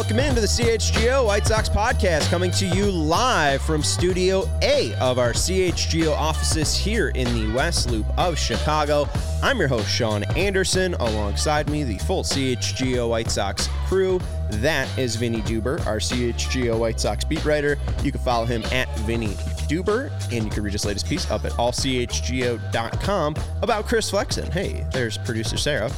Welcome into the CHGO White Sox podcast, coming to you live from Studio A of our CHGO offices here in the West Loop of Chicago. I'm your host, Sean Anderson. Alongside me, the full CHGO White Sox crew. That is Vinny Duber, our CHGO White Sox beat writer. You can follow him at Vinny Duber, and you can read his latest piece up at allchgo.com about Chris Flexen. Hey, there's producer Sarah.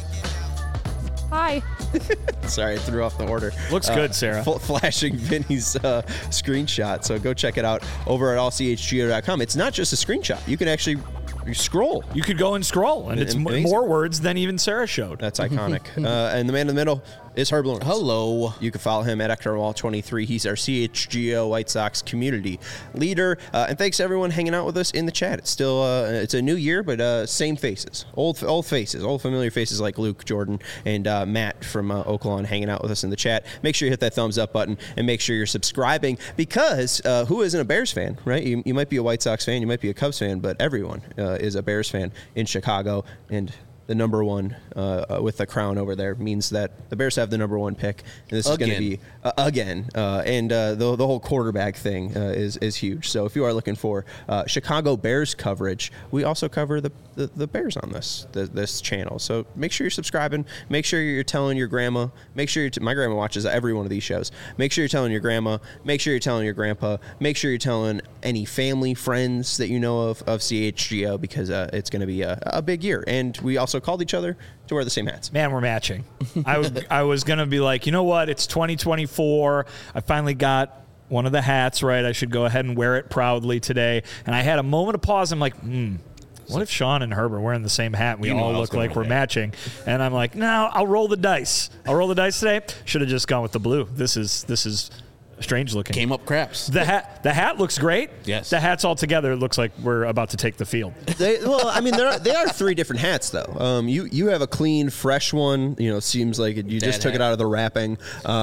Hi. Sorry, I threw off the order. Looks good, Sarah. Flashing Vinny's screenshot. So go check it out over at allchgo.com. It's not just a screenshot. You can actually scroll. You could go and scroll, and it's more words than even Sarah showed. That's iconic. And the man in the middle is Herb Lawrence. Hello. You can follow him at Eknerwall23. He's our CHGO White Sox community leader. And thanks to everyone hanging out with us in the chat. It's still it's a new year, but same faces, old faces, old familiar faces like Luke, Jordan, and Matt from Oaklawn hanging out with us in the chat. Make sure you hit that thumbs up button and make sure you're subscribing, because who isn't a Bears fan, right? You might be a White Sox fan, you might be a Cubs fan, but everyone is a Bears fan in Chicago, and the number one with the crown over there means that the Bears have the number one pick. And this is going to be again. And the whole quarterback thing is huge. So if you are looking for Chicago Bears coverage, we also cover the Bears on this channel. So make sure you're subscribing. Make sure you're telling your grandma. Make sure my grandma watches every one of these shows. Make sure you're telling your grandma. Make sure you're telling your grandpa. Make sure you're telling any family, friends that you know of CHGO, because it's going to be a big year. And we also called each other to wear the same hats. Man, we're matching. I was going to be like, you know what? It's 2024. I finally got one of the hats right. I should go ahead and wear it proudly today. And I had a moment of pause. I'm like, what if Sean and Herb are wearing the same hat and we all look like we're matching? And I'm like, no, I'll roll the dice. I'll roll the dice today. Should have just gone with the blue. This is strange looking. Came up craps. The hat looks great. Yes. The hats all together, it looks like we're about to take the field. They are three different hats, though. You have a clean, fresh one. Seems like you just took it out of the wrapping.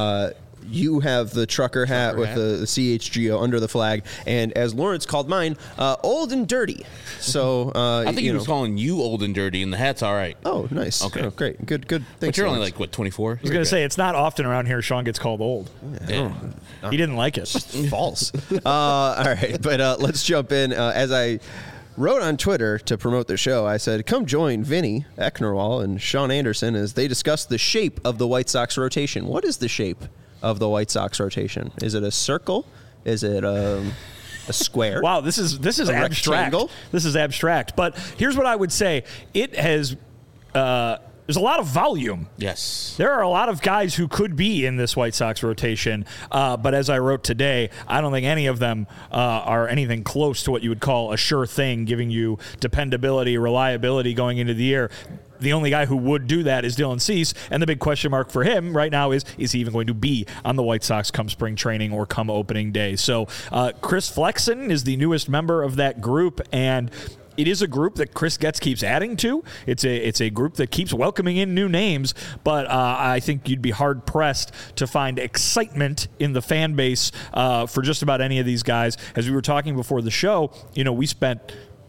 You have the trucker hat with the CHGO under the flag, and as Lawrence called mine, old and dirty. So I think he was calling you old and dirty, and the hat's all right. Oh, nice. Okay, great, good. Thanks, but you're Lawrence. only 24. I was going to say, it's not often around here Sean gets called old. Yeah. He didn't like it. False. All right, but let's jump in. As I wrote on Twitter to promote the show, I said, come join Vinny Eknerwall and Sean Anderson as they discuss the shape of the White Sox rotation. What is the shape of the White Sox rotation? Is it a circle? Is it a square? Wow, this is abstract. Rectangle? This is abstract. But here's what I would say. It has there's a lot of volume. Yes. There are a lot of guys who could be in this White Sox rotation, but as I wrote today, I don't think any of them are anything close to what you would call a sure thing, giving you dependability, reliability going into the year. The only guy who would do that is Dylan Cease, and the big question mark for him right now is he even going to be on the White Sox come spring training or come opening day? So Chris Flexen is the newest member of that group, and it is a group that Chris Getz keeps adding to. It's a group that keeps welcoming in new names, but I think you'd be hard-pressed to find excitement in the fan base for just about any of these guys. As we were talking before the show, we spent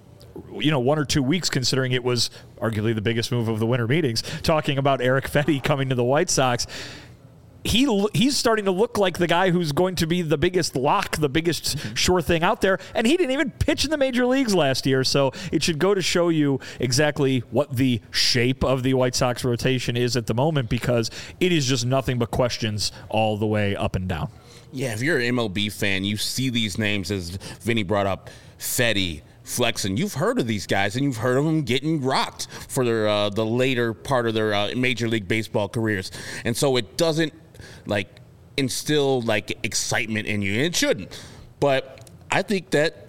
1 or 2 weeks, considering it was arguably the biggest move of the winter meetings, talking about Erick Fedde coming to the White Sox. He's starting to look like the guy who's going to be the biggest lock, the biggest sure thing out there, and he didn't even pitch in the major leagues last year, so it should go to show you exactly what the shape of the White Sox rotation is at the moment, because it is just nothing but questions all the way up and down. Yeah, if you're an MLB fan, you see these names, as Vinny brought up, Fedde, Flexen. You've heard of these guys, and you've heard of them getting rocked for their the later part of their Major League Baseball careers. And so it doesn't instill excitement in you, and it shouldn't. But I think that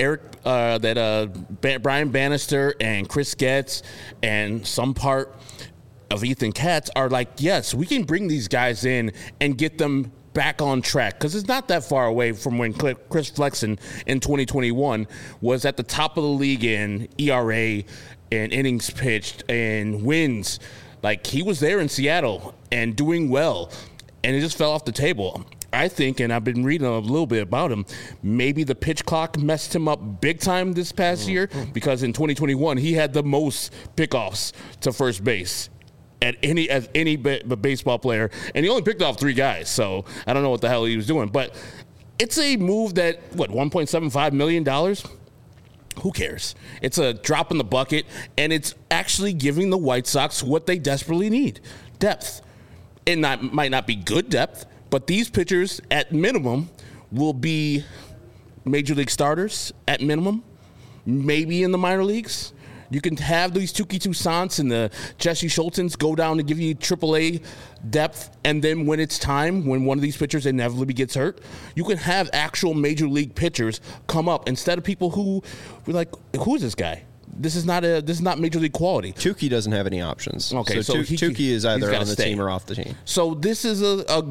Brian Bannister and Chris Getz and some part of Ethan Katz are yes, we can bring these guys in and get them back on track, because it's not that far away from when Chris Flexen in 2021 was at the top of the league in ERA and innings pitched and wins. He was there in Seattle and doing well, and it just fell off the table. I think, and I've been reading a little bit about him, maybe the pitch clock messed him up big time this past year, because in 2021 he had the most pickoffs to first base as any baseball player, and he only picked off 3 guys, so I don't know what the hell he was doing. But it's a move that, $1.75 million? Who cares? It's a drop in the bucket, and it's actually giving the White Sox what they desperately need, depth. And might not be good depth, but these pitchers, at minimum, will be major league starters, at minimum, maybe in the minor leagues. You can have these Touki Toussaints and the Jesse Schultzens go down and give you AAA depth, and then when it's time, when one of these pitchers inevitably gets hurt, you can have actual major league pitchers come up instead of people who were like, who is this guy? This is not major league quality. Touki doesn't have any options. Okay, so Touki is either on the team or off the team. So this is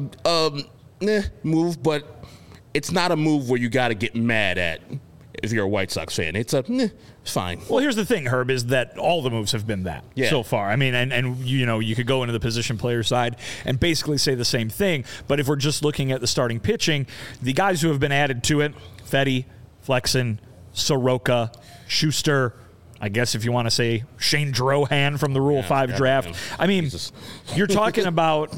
a move, but it's not a move where you got to get mad at if you're a White Sox fan. It's fine. Well, here's the thing, Herb, is that all the moves have been that so far. I mean, and you could go into the position player side and basically say the same thing. But if we're just looking at the starting pitching, the guys who have been added to it, Fedde, Flexen, Soroka, Schuster, I guess if you want to say Shane Drohan from the Rule 5 draft. Man. I mean, Jesus. you're talking about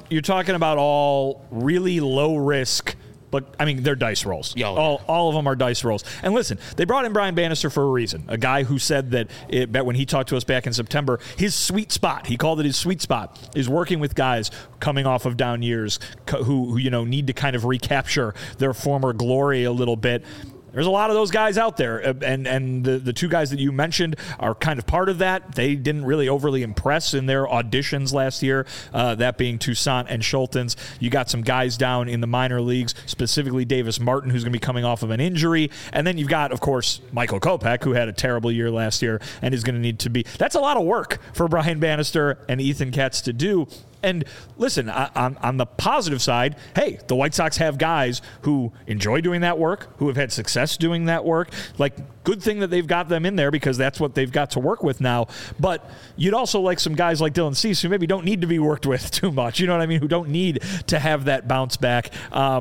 all really low risk. But, I mean, they're dice rolls. All of them are dice rolls. And listen, they brought in Brian Bannister for a reason. A guy who said that when he talked to us back in September, his sweet spot, he called it his sweet spot, is working with guys coming off of down years who need to kind of recapture their former glory a little bit. There's a lot of those guys out there, and the 2 guys that you mentioned are kind of part of that. They didn't really overly impress in their auditions last year, that being Toussaint and Schultens. You got some guys down in the minor leagues, specifically Davis Martin, who's going to be coming off of an injury. And then you've got, of course, Michael Kopech, who had a terrible year last year and is going to need to be. That's a lot of work for Brian Bannister and Ethan Katz to do. And listen, on the positive side, hey, the White Sox have guys who enjoy doing that work, who have had success doing that work. Like, good thing that they've got them in there because that's what they've got to work with now. But you'd also like some guys like Dylan Cease who maybe don't need to be worked with too much. You know what I mean? Who don't need to have that bounce back.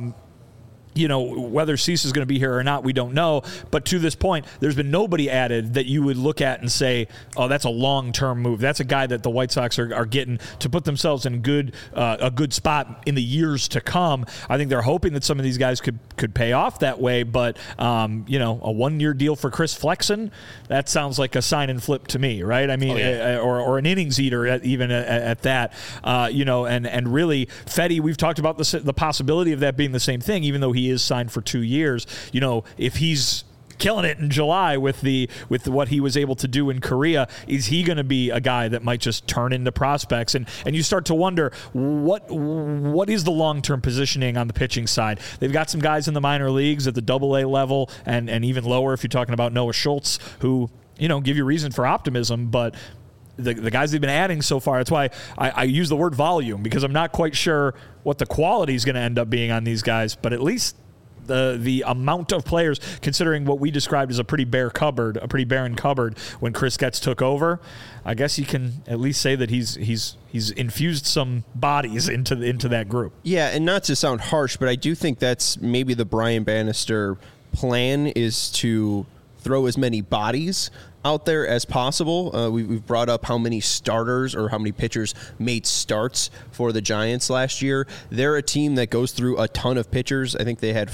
Whether Cease is going to be here or not, we don't know. But to this point, there's been nobody added that you would look at and say, oh, that's a long-term move. That's a guy that the White Sox are getting to put themselves in a good spot in the years to come. I think they're hoping that some of these guys could pay off that way. But, a one-year deal for Chris Flexen, that sounds like a sign and flip to me, right? I mean, or an innings eater at that. And really, Fedde, we've talked about the possibility of that being the same thing, even though he is signed for 2 years. If he's killing it in July with what he was able to do in Korea, is he going to be a guy that might just turn into prospects? And you start to wonder what is the long-term positioning on the pitching side. They've got some guys in the minor leagues at the AA level and even lower if you're talking about Noah Schultz, who give you reason for optimism, but the guys they've been adding so far, that's why I use the word volume, because I'm not quite sure what the quality is going to end up being on these guys, but at least the amount of players, considering what we described as a pretty barren cupboard when Chris Getz took over, I guess you can at least say that he's infused some bodies into that group. Yeah, and not to sound harsh, but I do think that's maybe the Brian Bannister plan, is to throw as many bodies out there as possible. We've brought up how many starters or how many pitchers made starts for the Giants last year. They're a team that goes through a ton of pitchers. I think they had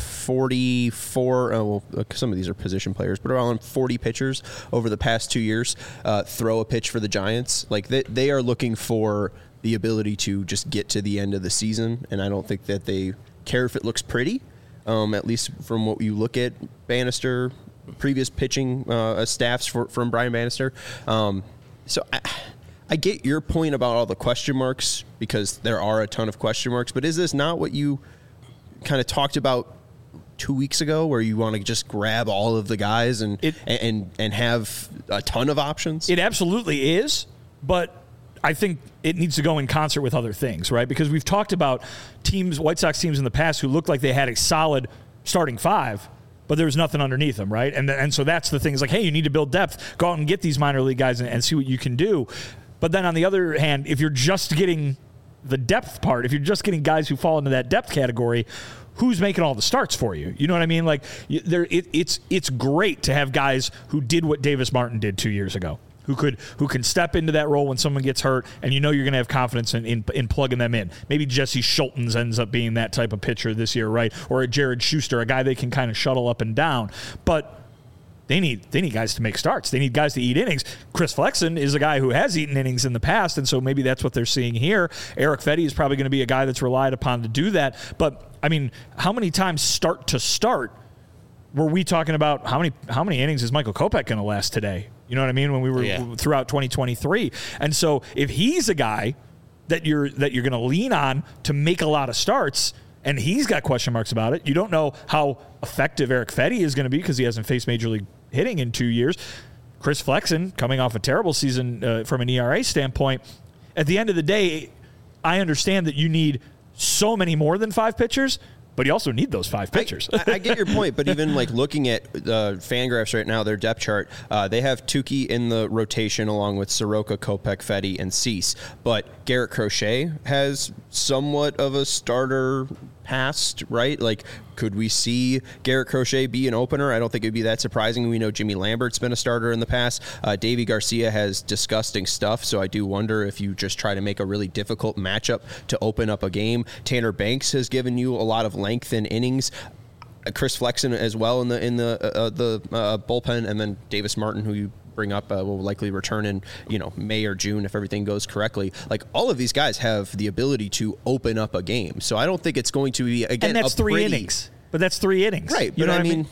44, some of these are position players, but around 40 pitchers over the past 2 years throw a pitch for the Giants. Like, they are looking for the ability to just get to the end of the season, and I don't think that they care if it looks pretty, at least from what you look at Bannister, previous pitching staffs from Brian Bannister. So I get your point about all the question marks, because there are a ton of question marks, but is this not what you kind of talked about 2 weeks ago, where you want to just grab all of the guys and have a ton of options? It absolutely is, but I think it needs to go in concert with other things, right? Because we've talked about White Sox teams in the past who looked like they had a solid starting 5, but there was nothing underneath them, right? And so that's the thing. It's like, hey, you need to build depth. Go out and get these minor league guys and see what you can do. But then on the other hand, if you're just getting the depth part, if you're just getting guys who fall into that depth category, who's making all the starts for you? You know what I mean? Like, it's great to have guys who did what Davis Martin did 2 years ago, who can step into that role when someone gets hurt, and you know you're going to have confidence in plugging them in. Maybe Jesse Schultens ends up being that type of pitcher this year, right? Or a Jared Schuster, a guy they can kind of shuttle up and down. But they need guys to make starts. They need guys to eat innings. Chris Flexen is a guy who has eaten innings in the past, and so maybe that's what they're seeing here. Eric Fedde is probably going to be a guy that's relied upon to do that. But, I mean, how many times start to start were we talking about how many innings is Michael Kopech going to last today? You know what I mean? When we were throughout 2023. And so if he's a guy that you're going to lean on to make a lot of starts, and he's got question marks about it, you don't know how effective Eric Fedde is going to be because he hasn't faced Major League hitting in 2 years. Chris Flexen, coming off a terrible season from an ERA standpoint, at the end of the day, I understand that you need so many more than 5 pitchers, but you also need those 5 pitchers. I get your point, but even like looking at Fangraphs right now, their depth chart, they have Tukey in the rotation along with Soroka, Kopech, Fedde, and Cease. But Garrett Crochet has somewhat of a starter past, right? Like, could we see Garrett Crochet be an opener? I don't think it'd be that surprising. We know Jimmy Lambert's been a starter in the past. Davy Garcia has disgusting stuff, so I do wonder if you just try to make a really difficult matchup to open up a game. Tanner Banks has given you a lot of length in innings. Chris Flexen as well in the bullpen, and then Davis Martin, who you bring up, will likely return in May or June if everything goes correctly. Like, all of these guys have the ability to open up a game, so I don't think it's going to be again. And that's 3 innings, but that's 3 innings, right? You but know I mean,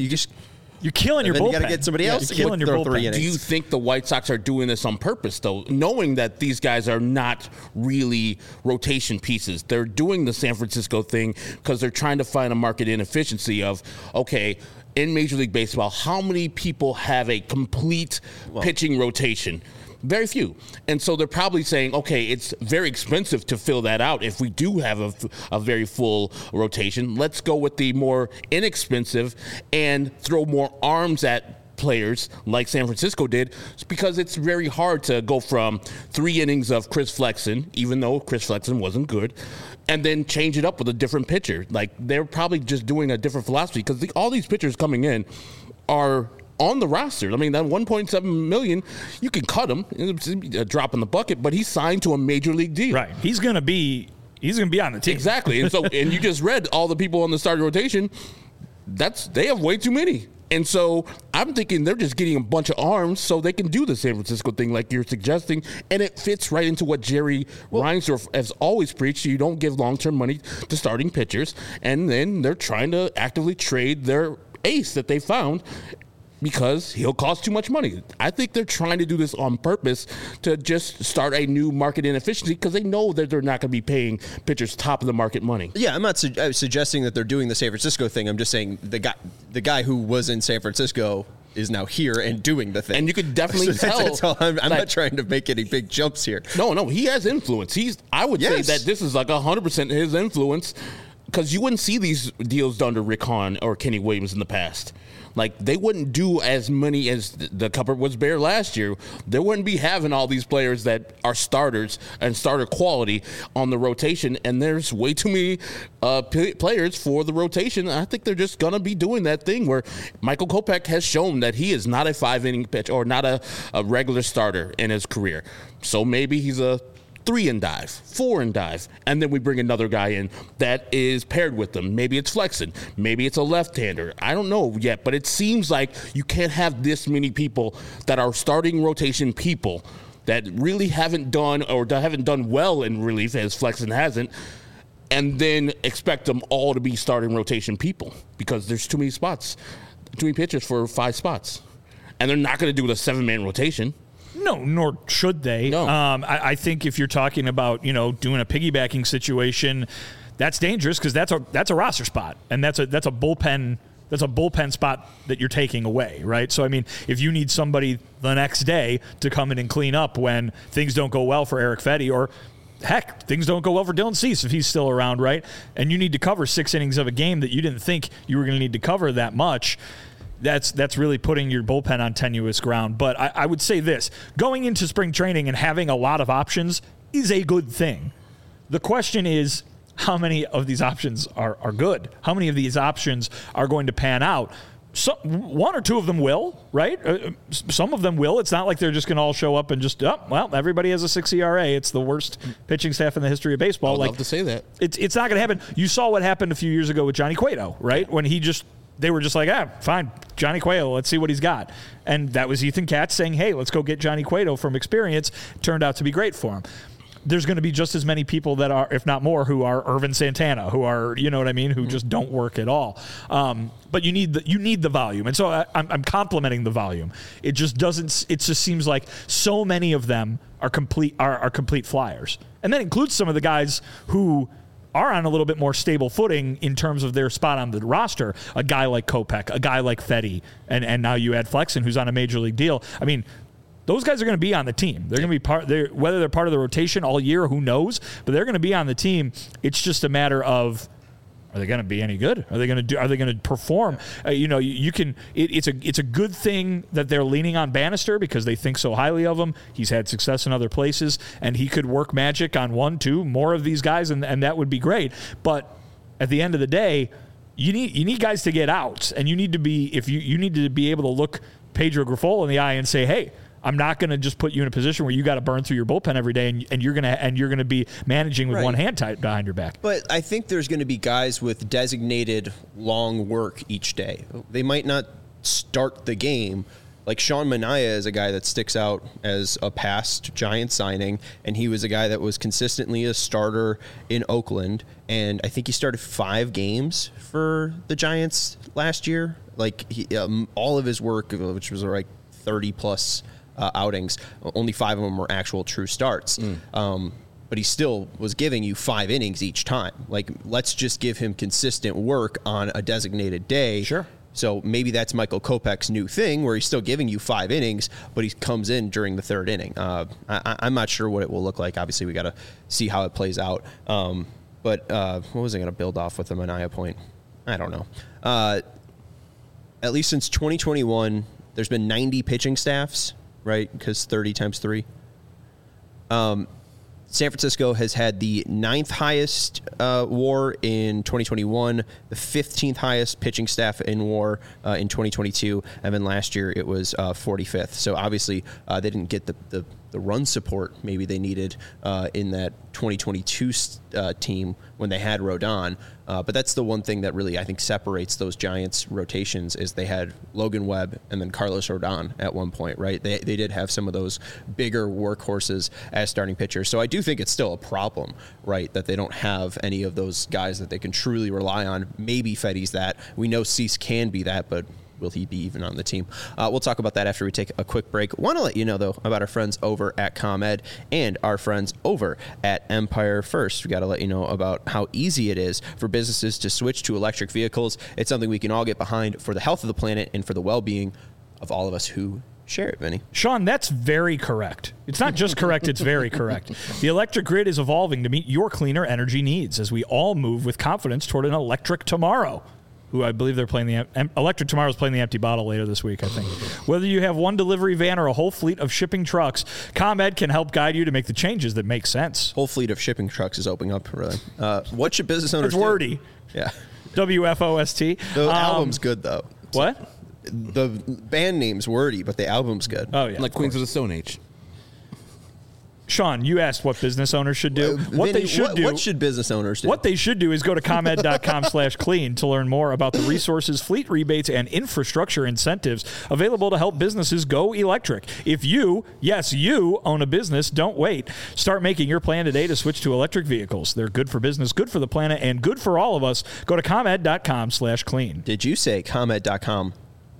you're killing your bullpen. You got to get somebody else to killing your throw bullpen. 3 innings. Do you think the White Sox are doing this on purpose, though, knowing that these guys are not really rotation pieces? They're doing the San Francisco thing because they're trying to find a market inefficiency of, okay, in Major League Baseball, how many people have a complete pitching rotation? Very few. And so they're probably saying, okay, it's very expensive to fill that out if we do have a very full rotation. Let's go with the more inexpensive and throw more arms at players like San Francisco did, because it's very hard to go from 3 innings of Chris Flexen, even though Chris Flexen wasn't good, and then change it up with a different pitcher. Like, they're probably just doing a different philosophy because all these pitchers coming in are on the roster. I mean, that $1.7 million, you can cut him. It's a drop in the bucket, but he's signed to a major league deal. Right. He's going to be on the team. Exactly. And so, and you just read all the people on the starting rotation. They have way too many. And so I'm thinking they're just getting a bunch of arms so they can do the San Francisco thing like you're suggesting. And it fits right into what Jerry Reinsdorf has always preached. You don't give long-term money to starting pitchers. And then they're trying to actively trade their ace that they found because he'll cost too much money. I think they're trying to do this on purpose to just start a new market inefficiency because they know that they're not going to be paying pitchers top of the market money. Yeah, I'm not suggesting that they're doing the San Francisco thing. I'm just saying the guy who was in San Francisco is now here and doing the thing. And you could definitely tell. That's all. I'm not trying to make any big jumps here. No, he has influence. I would say that this is like 100% his influence, because you wouldn't see these deals done to Rick Hahn or Kenny Williams in the past. Like, they wouldn't do as many as the cupboard was bare last year. They wouldn't be having all these players that are starters and starter quality on the rotation, and there's way too many players for the rotation. I think they're just going to be doing that thing where Michael Kopech has shown that he is not a 5-inning pitch or not a regular starter in his career. So maybe he's a 3 and dive, 4 and dive, and then we bring another guy in that is paired with them. Maybe it's Flexen, maybe it's a left-hander. I don't know yet, but it seems like you can't have this many people that are starting rotation people that really haven't done well in relief, as Flexen hasn't, and then expect them all to be starting rotation people because there's too many spots, too many pitchers for 5 spots, and they're not going to do a 7-man rotation. No, nor should they. No. I think if you're talking about, doing a piggybacking situation, that's dangerous because that's a roster spot, and that's a bullpen. That's a bullpen spot that you're taking away, right? So, I mean, if you need somebody the next day to come in and clean up when things don't go well for Eric Fedde, or heck, things don't go well for Dylan Cease if he's still around, right? And you need to cover 6 innings of a game that you didn't think you were going to need to cover that much. That's really putting your bullpen on tenuous ground. But I would say this. Going into spring training and having a lot of options is a good thing. The question is, how many of these options are good? How many of these options are going to pan out? one or two of them will, right? Some of them will. It's not like they're just going to all show up and just, everybody has a 6 ERA. It's the worst pitching staff in the history of baseball. I would love to say that. It's not going to happen. You saw what happened a few years ago with Johnny Cueto, right? When they were just like, fine, Johnny Cueto, let's see what he's got. And that was Ethan Katz saying, hey, let's go get Johnny Cueto from experience. Turned out to be great for him. There's going to be just as many people that are, if not more, who are Irvin Santana, who are, you know what I mean, who just don't work at all. But you need the volume, and so I'm complimenting the volume. It just doesn't. It just seems like so many of them are complete flyers, and that includes some of the guys who are on a little bit more stable footing in terms of their spot on the roster. A guy like Kopech, a guy like Fedde, and now you add Flexen, who's on a major league deal. I mean, those guys are going to be on the team. They're going to be whether they're part of the rotation all year, who knows? But they're going to be on the team. It's just a matter of, are they going to be any good? Are they going to perform? It's a good thing that they're leaning on Bannister because they think so highly of him. He's had success in other places, and he could work magic on 1, 2 more of these guys, and that would be great. But at the end of the day, you need guys to get outs, and you need to be you need to be able to look Pedro Grifol in the eye and say, hey, I'm not going to just put you in a position where you got to burn through your bullpen every day, and you're going to be managing with one hand tied behind your back. But I think there's going to be guys with designated long work each day. They might not start the game. Like Sean Manaea is a guy that sticks out as a past Giant signing, and he was a guy that was consistently a starter in Oakland, and I think he started 5 games for the Giants last year. Like all of his work, which was like 30 plus outings, only 5 of them were actual true starts. But he still was giving you 5 innings each time. Like, let's just give him consistent work on a designated day. Sure. So maybe that's Michael Kopech's new thing, where he's still giving you 5 innings, but he comes in during the 3rd inning. I'm not sure what it will look like. Obviously, we got to see how it plays out. But what was I going to build off with the Manaea point? I don't know. At least since 2021, there's been 90 pitching staffs, right? Because 30 times 3. San Francisco has had the 9th highest WAR in 2021, the 15th highest pitching staff in WAR in 2022, and then last year it was 45th. So obviously they didn't get the run support maybe they needed in that 2022 team when they had Rodon. But that's the one thing that really, I think, separates those Giants rotations is they had Logan Webb and then Carlos Rodon at one point, right? They did have some of those bigger workhorses as starting pitchers. So I do think it's still a problem, right, that they don't have any of those guys that they can truly rely on. Maybe Fedde's that. We know Cease can be that, but will he be even on the team? We'll talk about that after we take a quick break. Want to let you know, though, about our friends over at ComEd and our friends over at Empire First. We got to let you know about how easy it is for businesses to switch to electric vehicles. It's something we can all get behind for the health of the planet and for the well-being of all of us who share it, Vinny. Sean, that's very correct. It's not just correct, it's very correct. The electric grid is evolving to meet your cleaner energy needs as we all move with confidence toward an electric tomorrow. Who I believe they're playing Electric Tomorrow's playing the Empty Bottle later this week, I think. Whether you have one delivery van or a whole fleet of shipping trucks, ComEd can help guide you to make the changes that make sense. Whole fleet of shipping trucks is opening up, really. What should business owners do? It's wordy. Yeah. WFOST. The album's good, though. What? The band name's wordy, but the album's good. Oh, yeah. Like Queens of the Stone Age. Sean, you asked what business owners should do. What should business owners do? What they should do is go to ComEd.com/clean to learn more about the resources, fleet rebates, and infrastructure incentives available to help businesses go electric. If you own a business, don't wait. Start making your plan today to switch to electric vehicles. They're good for business, good for the planet, and good for all of us. Go to ComEd.com/clean. Did you say ComEd.com/clean?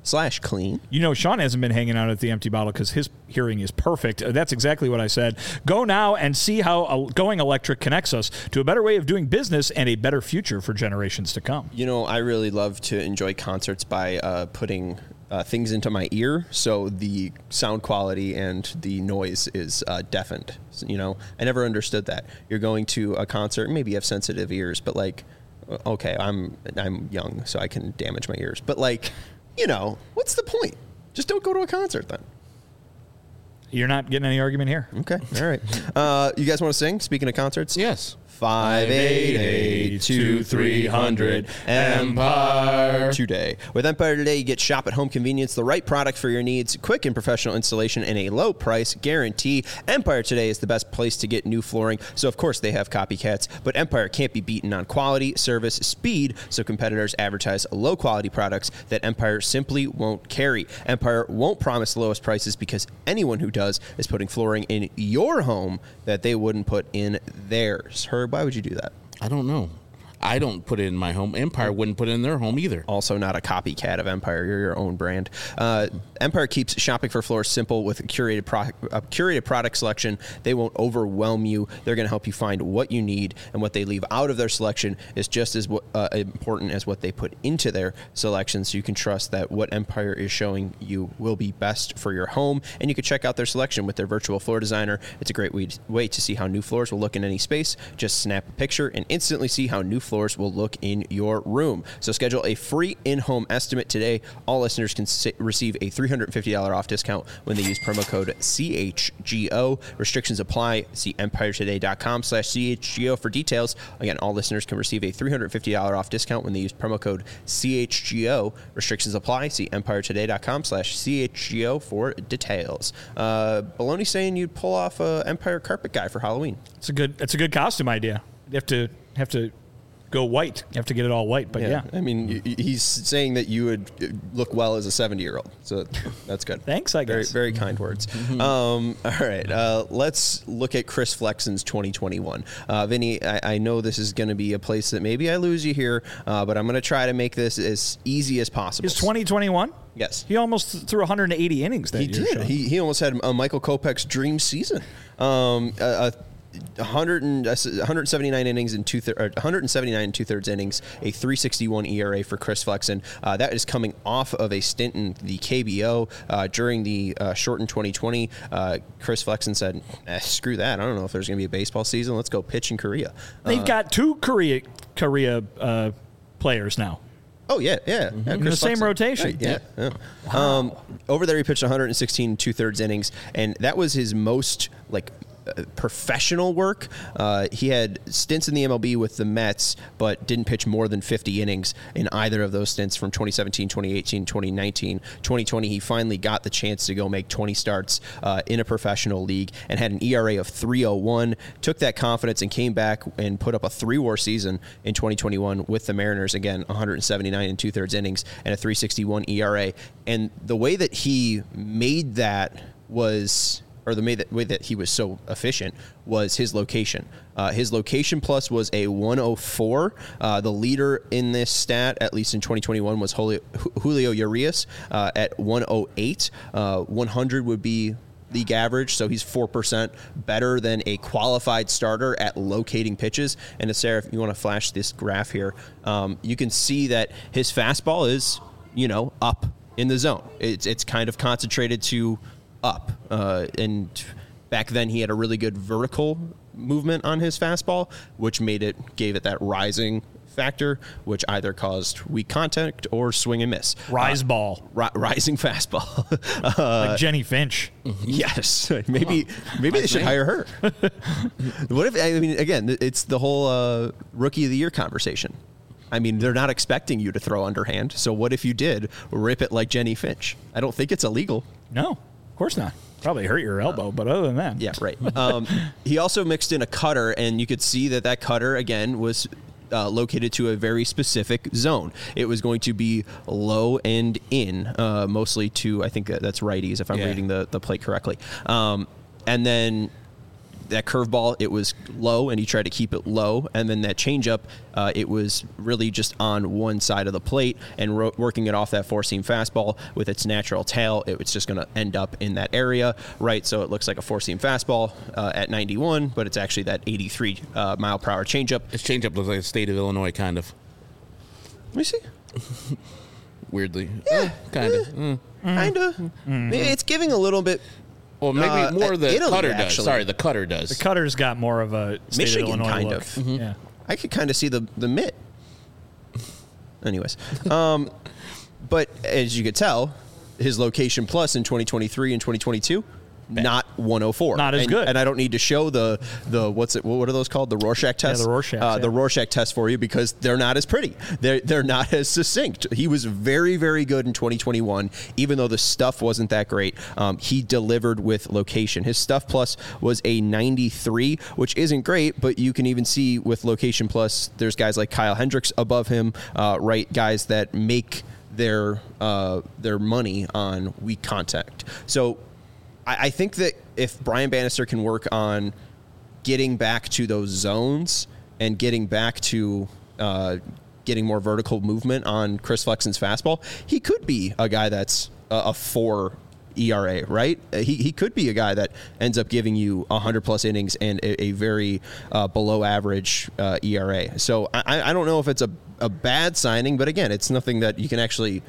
You know, Sean hasn't been hanging out at the Empty Bottle because his hearing is perfect. That's exactly what I said. Go now and see how going electric connects us to a better way of doing business and a better future for generations to come. You know, I really love to enjoy concerts by putting things into my ear, so the sound quality and the noise is deafened. You know, I never understood that. You're going to a concert, maybe you have sensitive ears, but like, okay, I'm young, so I can damage my ears. But like, you know, what's the point? Just don't go to a concert then. You're not getting any argument here. Okay, all right. You guys want to sing? Speaking of concerts? Yes. 588-2300 Empire Today. With Empire Today, you get shop at home convenience, the right product for your needs, quick and professional installation, and a low price guarantee. Empire Today is the best place to get new flooring, so of course they have copycats, but Empire can't be beaten on quality, service, speed, so competitors advertise low quality products that Empire simply won't carry. Empire won't promise the lowest prices because anyone who does is putting flooring in your home that they wouldn't put in theirs. Herb, why would you do that? I don't know. I don't put it in my home. Empire wouldn't put it in their home either. Also not a copycat of Empire. You're your own brand. Empire keeps shopping for floors simple with a curated product selection. They won't overwhelm you. They're going to help you find what you need, and what they leave out of their selection is just as important as what they put into their selection, so you can trust that what Empire is showing you will be best for your home. And you can check out their selection with their virtual floor designer. It's a great way to see how new floors will look in any space. Just snap a picture and instantly see how new floors will look in your room. So schedule a free in-home estimate today. All listeners can receive a $350 off discount when they use promo code CHGO. Restrictions apply. See EmpireToday.com/CHGO for details. Again, all listeners can receive a $350 off discount when they use promo code CHGO. Restrictions apply. See EmpireToday.com/CHGO for details. Baloney saying you'd pull off a Empire carpet guy for Halloween. It's a good costume idea. You have to go white. You have to get it all white, but yeah. I mean, he's saying that you would look well as a 70-year-old, so that's good. Thanks, I guess. Very, very kind words. All right, let's look at Chris Flexen's 2021. Vinny, I know this is going to be a place that maybe I lose you here, but I'm going to try to make this as easy as possible. Is 2021? Yes. He almost threw 180 innings that year. He did. He almost had a Michael Kopech's dream season. 179 innings and 179 2/3 innings, a 3.61 ERA for Chris Flexen. That is coming off of a stint in the KBO during the shortened 2020. Chris Flexen said, "Screw that! I don't know if there's going to be a baseball season. Let's go pitch in Korea." They've got two Korea players now. Oh, yeah. In the same rotation. Right, yeah. Wow. Over there, he pitched 116 2/3 innings, and that was his most professional work. He had stints in the MLB with the Mets, but didn't pitch more than 50 innings in either of those stints from 2017, 2018, 2019. 2020, he finally got the chance to go make 20 starts in a professional league and had an ERA of 3.01, took that confidence and came back and put up a 3-WAR season in 2021 with the Mariners. Again, 179 2/3 innings and a 3.61 ERA. And the way that he made that was... or the way that he was so efficient was his location. His location plus was a 104. The leader in this stat, at least in 2021, was Julio Urias at 108. 100 would be league average, so he's 4% better than a qualified starter at locating pitches. And Sarah, if you want to flash this graph here, you can see that his fastball is, up in the zone. It's kind of concentrated to up, and back then he had a really good vertical movement on his fastball, which gave it that rising factor, which either caused weak contact or swing and miss. Rising fastball. Like Jenny Finch. Yes. Maybe they should hire her. What if, again, it's the whole rookie of the year conversation. I mean, they're not expecting you to throw underhand, so what if you did rip it like Jenny Finch? I don't think it's illegal. No. Of course not. Probably hurt your elbow, but other than that. Yeah, right. He also mixed in a cutter, and you could see that cutter, again, was located to a very specific zone. It was going to be low and in, mostly to, I think that's righties, if I'm reading the plate correctly. And then that curveball, it was low, and he tried to keep it low. And then that changeup, it was really just on one side of the plate, and working it off that four-seam fastball with its natural tail, it was just going to end up in that area, right? So it looks like a four-seam fastball at 91, but it's actually that 83 mile per hour changeup. This changeup looks like the state of Illinois, kind of. Let me see. Weirdly. Yeah. Kind of. Kind of. It's giving a little bit. Well, maybe more the Italy, cutter actually. does. Sorry, the cutter does. The cutter's got more of a state Michigan of Illinois kind look. of. Mm-hmm. Yeah. I could kind of see the mitt. Anyways. But as you could tell, his location plus in 2023 and 2022, not 104. Not as good. And I don't need to show the what are those called? The Rorschach tests? Yeah, the Rorschach. The Rorschach test for you because they're not as pretty. They're not as succinct. He was very, very good in 2021, even though the stuff wasn't that great. He delivered with location. His stuff plus was a 93, which isn't great, but you can even see with location plus, there's guys like Kyle Hendricks above him, right? Guys that make their money on weak contact. So I think that if Brian Bannister can work on getting back to those zones and getting back to getting more vertical movement on Chris Flexen's fastball, he could be a guy that's a 4 ERA, right? He could be a guy that ends up giving you 100+ innings and a very below average ERA. So I don't know if it's a bad signing, but again, it's nothing that you can actually,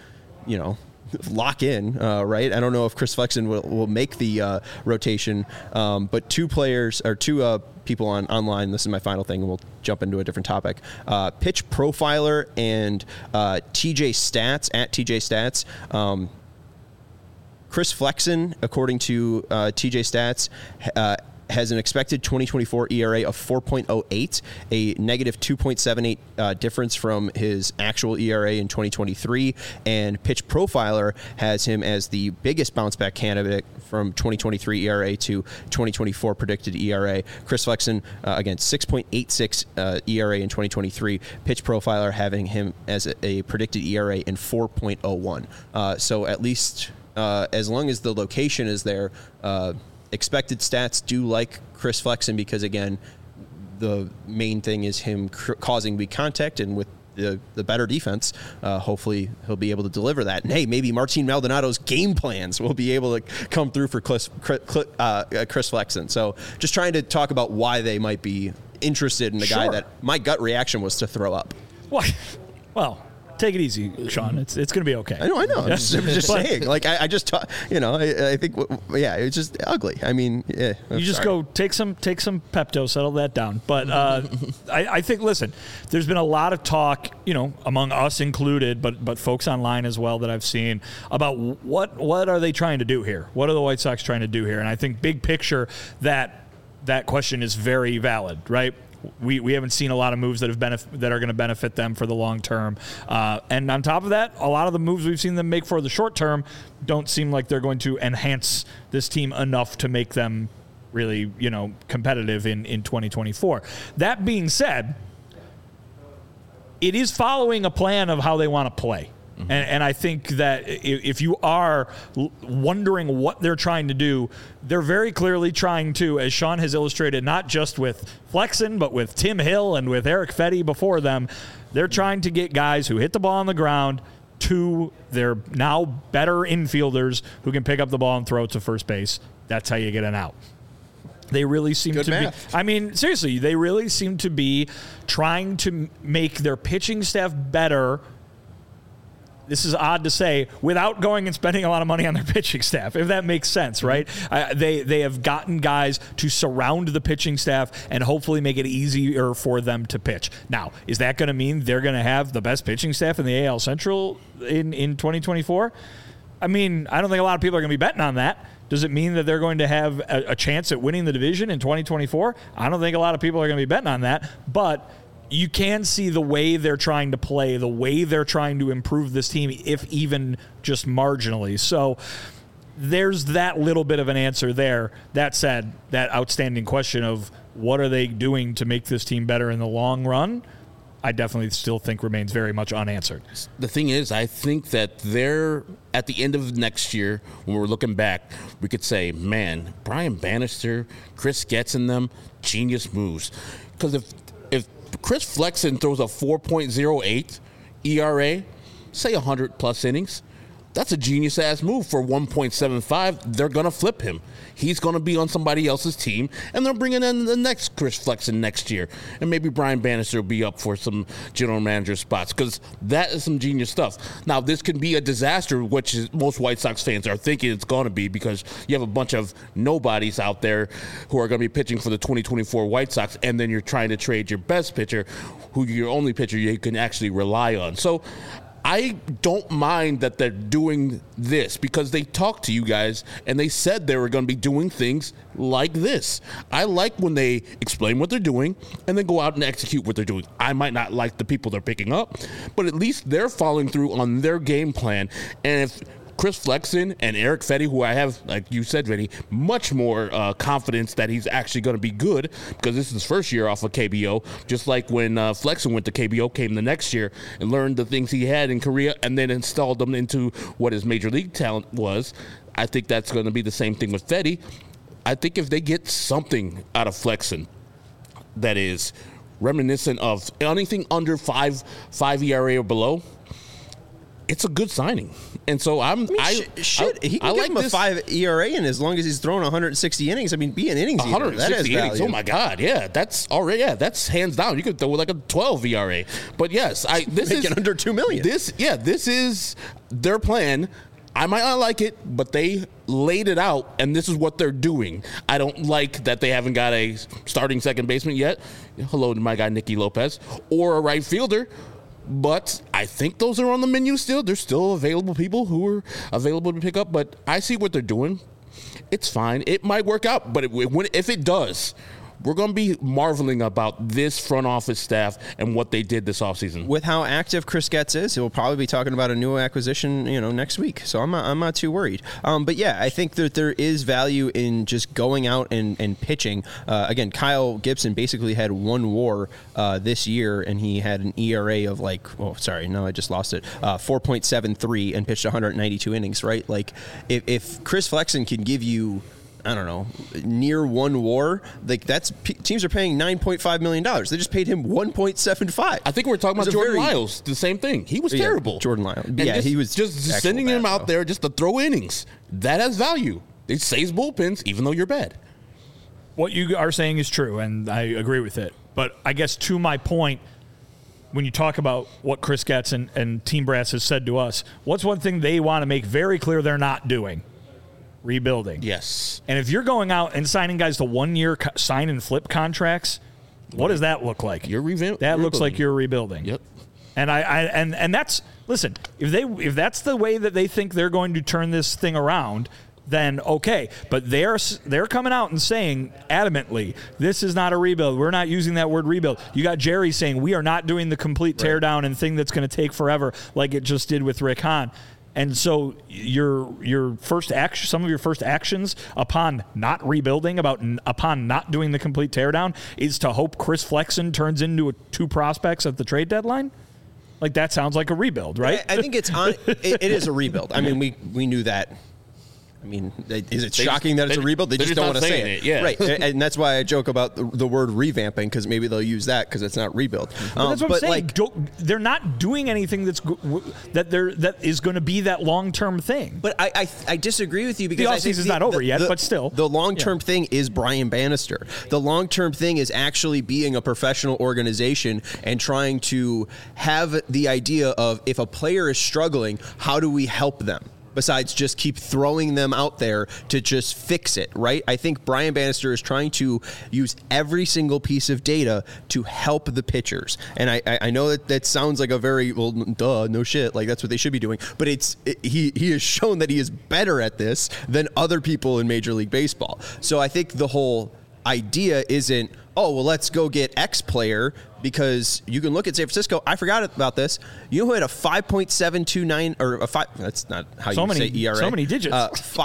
lock in, right? I don't know if Chris Flexen will make the rotation, but two people online, this is my final thing, and we'll jump into a different topic. Pitch Profiler and TJ Stats, at TJ Stats. Chris Flexen, according to TJ Stats, has an expected 2024 ERA of 4.08, a negative 2.78 difference from his actual ERA in 2023. And Pitch Profiler has him as the biggest bounce back candidate from 2023 ERA to 2024 predicted ERA. Chris Flexen, again, 6.86 ERA in 2023. Pitch Profiler having him as a predicted ERA in 4.01. So at least as long as the location is there, expected stats do like Chris Flexen because, again, the main thing is him causing weak contact, and with the better defense, hopefully he'll be able to deliver that. And, hey, maybe Martin Maldonado's game plans will be able to come through for Chris Flexen. So just trying to talk about why they might be interested in the guy that my gut reaction was to throw up. Well, take it easy, Sean. It's going to be okay. I know. I'm just saying. Like I just, I think, it's just ugly. I mean, you just go take some Pepto, settle that down. But I think, listen, there's been a lot of talk, among us included, but folks online as well that I've seen about what are they trying to do here? What are the White Sox trying to do here? And I think big picture that question is very valid, right? We haven't seen a lot of moves that are going to benefit them for the long term. And on top of that, a lot of the moves we've seen them make for the short term don't seem like they're going to enhance this team enough to make them really, competitive in 2024. That being said, it is following a plan of how they want to play. And I think that if you are wondering what they're trying to do, they're very clearly trying to, as Sean has illustrated, not just with Flexen, but with Tim Hill and with Eric Fetty before them, they're trying to get guys who hit the ball on the ground to their now better infielders who can pick up the ball and throw it to first base. That's how you get an out. They really seem to be, I mean, seriously, they really seem to be trying to make their pitching staff better. This is odd to say, without going and spending a lot of money on their pitching staff, if that makes sense, right? They have gotten guys to surround the pitching staff and hopefully make it easier for them to pitch. Now, is that going to mean they're going to have the best pitching staff in the AL Central in 2024? I mean, I don't think a lot of people are going to be betting on that. Does it mean that they're going to have a chance at winning the division in 2024? I don't think a lot of people are going to be betting on that, but you can see the way they're trying to play, the way they're trying to improve this team, if even just marginally. So there's that little bit of an answer there. That said, that outstanding question of what are they doing to make this team better in the long run, I definitely still think remains very much unanswered. The thing is, I think that they're at the end of next year, when we're looking back, we could say, man, Brian Bannister, Chris Getz in them, genius moves. Because if Chris Flexen throws a 4.08 ERA, say 100+ innings, that's a genius-ass move for 1.75. They're going to flip him. He's going to be on somebody else's team, and they're bringing in the next Chris Flexen next year. And maybe Brian Bannister will be up for some general manager spots, because that is some genius stuff. Now, this can be a disaster, which is, most White Sox fans are thinking it's going to be, because you have a bunch of nobodies out there who are going to be pitching for the 2024 White Sox, and then you're trying to trade your best pitcher, who your only pitcher you can actually rely on. So I don't mind that they're doing this because they talked to you guys and they said they were going to be doing things like this. I like when they explain what they're doing and then go out and execute what they're doing. I might not like the people they're picking up, but at least they're following through on their game plan. And if Chris Flexen and Eric Fetty, who I have, like you said, Vinny, much more confidence that he's actually going to be good because this is his first year off of KBO, just like when Flexen went to KBO, came the next year and learned the things he had in Korea and then installed them into what his major league talent was. I think that's going to be the same thing with Fetty. I think if they get something out of Flexen that is reminiscent of anything under 5 ERA or below, it's a good signing. And so he can give him a 5 ERA in as long as he's throwing 160 innings. I mean, be an innings eater. 160 innings. Oh my God, yeah, that's already that's hands down. You could throw like a 12 ERA. But yes, this is under $2 million. This is their plan. I might not like it, but they laid it out, and this is what they're doing. I don't like that they haven't got a starting second baseman yet. Hello to my guy Nicky Lopez, or a right fielder. But I think those are on the menu still. There's still available people who are available to pick up. But I see what they're doing. It's fine. It might work out. But if it does, we're going to be marveling about this front office staff and what they did this offseason. With how active Chris Getz is, he'll probably be talking about a new acquisition, next week. So I'm not too worried. But yeah, I think that there is value in just going out and pitching. Again, Kyle Gibson basically had one WAR this year, and he had an ERA of 4.73 and pitched 192 innings. Right? Like if Chris Flexen can give you, I don't know, near one WAR, like teams are paying $9.5 million. They just paid him $1.75. I think we're talking about Jordan Lyles. The same thing. He was terrible. Jordan Lyles. Yeah, he was just sending him out there just to throw innings. That has value. It saves bullpens, even though you're bad. What you are saying is true, and I agree with it. But I guess to my point, when you talk about what Chris Getz and Team Brass has said to us, what's one thing they want to make very clear they're not doing? Rebuilding. Yes. And if you're going out and signing guys to 1 year sign and flip contracts, what does that look like? You're rebuilding. That looks like you're rebuilding. Yep. And that's, listen, if that's the way that they think they're going to turn this thing around, then okay. But they're coming out and saying adamantly, this is not a rebuild. We're not using that word rebuild. You got Jerry saying we are not doing the complete teardown and thing that's going to take forever like it just did with Rick Hahn. And so your first action, some of your first actions upon not rebuilding, upon not doing the complete teardown, is to hope Chris Flexen turns into two prospects at the trade deadline. Like that sounds like a rebuild, right? I think it is a rebuild. I mean, we knew that. I mean, is it shocking that it's a rebuild? They just don't want to say it. Yeah. Right. And that's why I joke about the word revamping, because maybe they'll use that because it's not rebuild. But that's what I'm saying. They're not doing anything that is going to be that long-term thing. But I disagree with you because the offseason's not over yet, but still. The long-term thing is Brian Bannister. The long-term thing is actually being a professional organization and trying to have the idea of, if a player is struggling, how do we help them? Besides just keep throwing them out there to just fix it, right? I think Brian Bannister is trying to use every single piece of data to help the pitchers. And I know that sounds like a very, well, duh, no shit, like that's what they should be doing. But he has shown that he is better at this than other people in Major League Baseball. So I think the whole idea isn't, oh, well, let's go get X player, because you can look at San Francisco. I forgot about this. You know who had a 5.729 or a 5? That's not how you say ERA. So many digits.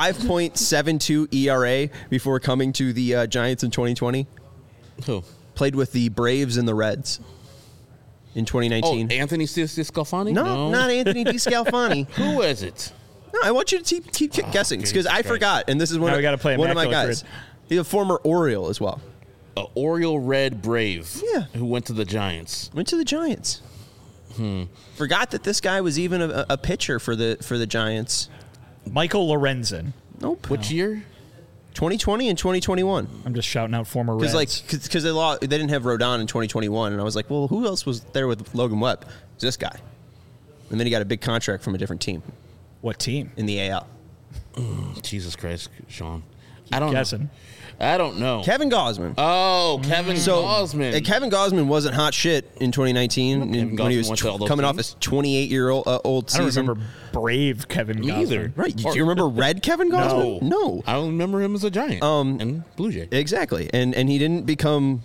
5.72 ERA before coming to the Giants in 2020. Who played with the Braves and the Reds in 2019? Oh, Anthony DeSclafani? No, not Anthony DeSclafani. Who is it? No, I want you to keep guessing because I forgot, and this is one of my guys. He's a former Oriole as well. Oriole Red Brave. Yeah. Who went to the Giants. Forgot that this guy was even a pitcher for the Giants. Michael Lorenzen. Nope. Which year? 2020 and 2021. I'm just shouting out former Reds. Because they didn't have Rodon in 2021, and I was like, well, who else was there with Logan Webb? It's this guy. And then he got a big contract from a different team. What team? In the AL. Jesus Christ, Sean. I don't know. I don't know. Kevin Gausman. Oh, Kevin Gausman. And Kevin Gausman wasn't hot shit in 2019 when he was coming off his 28-year-old season. I don't remember brave Kevin Gausman. Either. Right. Do you remember red Kevin Gausman? No. I don't remember him as a Giant and Blue Jay. Exactly. And he didn't become,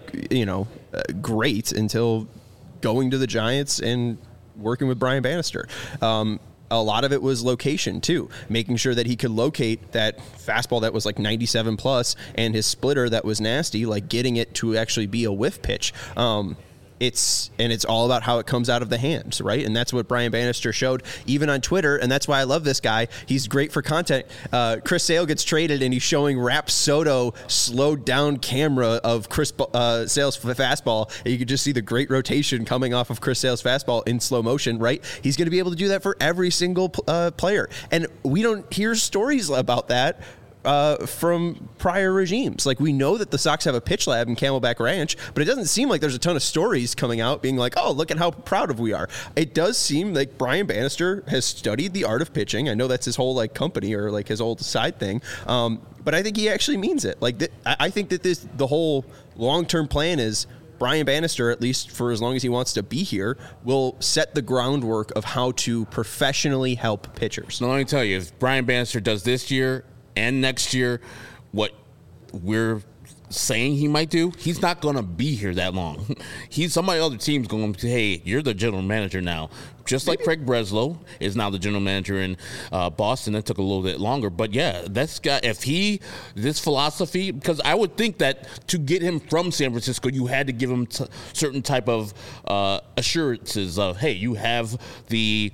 great until going to the Giants and working with Brian Bannister. A lot of it was location, too, making sure that he could locate that fastball that was like 97 plus and his splitter that was nasty, like getting it to actually be a whiff pitch. It's all about how it comes out of the hands, right? And that's what Brian Bannister showed even on Twitter, and that's why I love this guy. He's great for content. Chris Sale gets traded, and he's showing Rapsodo slowed down camera of Chris Sale's fastball, and you can just see the great rotation coming off of Chris Sale's fastball in slow motion, right? He's going to be able to do that for every single player, and we don't hear stories about that from prior regimes. Like, we know that the Sox have a pitch lab in Camelback Ranch, but it doesn't seem like there's a ton of stories coming out being like, oh, look at how proud of we are. It does seem like Brian Bannister has studied the art of pitching. I know that's his whole company or his old side thing. But I think he actually means it. I think that the whole long-term plan is Brian Bannister, at least for as long as he wants to be here, will set the groundwork of how to professionally help pitchers. Now, let me tell you, if Brian Bannister does this year and next year what we're saying he might do, he's not going to be here that long. Somebody other team's going to say, hey, you're the general manager now. Just like Craig Breslow is now the general manager in Boston. That took a little bit longer. But, yeah, this philosophy, because I would think that to get him from San Francisco, you had to give him certain type of assurances of, hey, you have the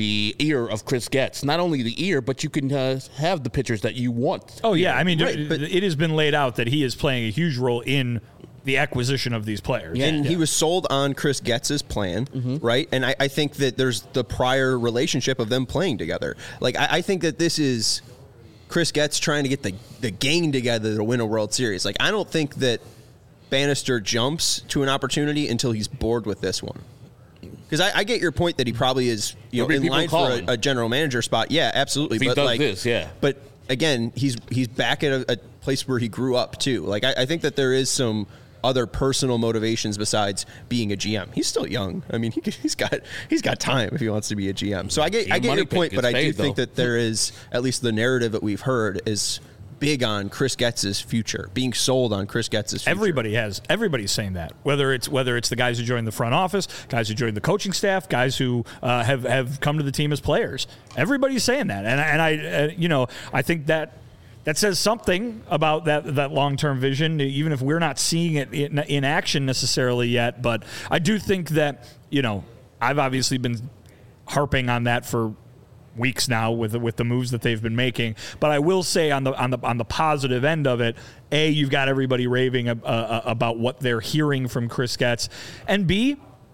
ear of Chris Getz. Not only the ear, but you can have the pitchers that you want. Oh, yeah. I mean, it has been laid out that he is playing a huge role in the acquisition of these players. Yeah. And he was sold on Chris Getz's plan, right? And I think that there's the prior relationship of them playing together. I think that this is Chris Getz trying to get the gang together to win a World Series. I don't think that Bannister jumps to an opportunity until he's bored with this one. Because I get your point that he probably is in line for a general manager spot. Yeah, absolutely. If he does this, yeah. But again, he's back at a place where he grew up too. I think that there is some other personal motivations besides being a GM. He's still young. I mean, he's got time if he wants to be a GM. So I get your point, but I do think that there is, at least the narrative that we've heard is big on Chris Getz's future, being sold on Chris Getz's future. Everybody's saying that. Whether it's the guys who joined the front office, guys who joined the coaching staff, guys who have come to the team as players. Everybody's saying that, and I think that says something about that long-term vision, even if we're not seeing it in action necessarily yet. But I do think that I've obviously been harping on that for weeks now with the moves that they've been making. But I will say on the positive end of it, A, you've got everybody raving about what they're hearing from Chris Getz, and B,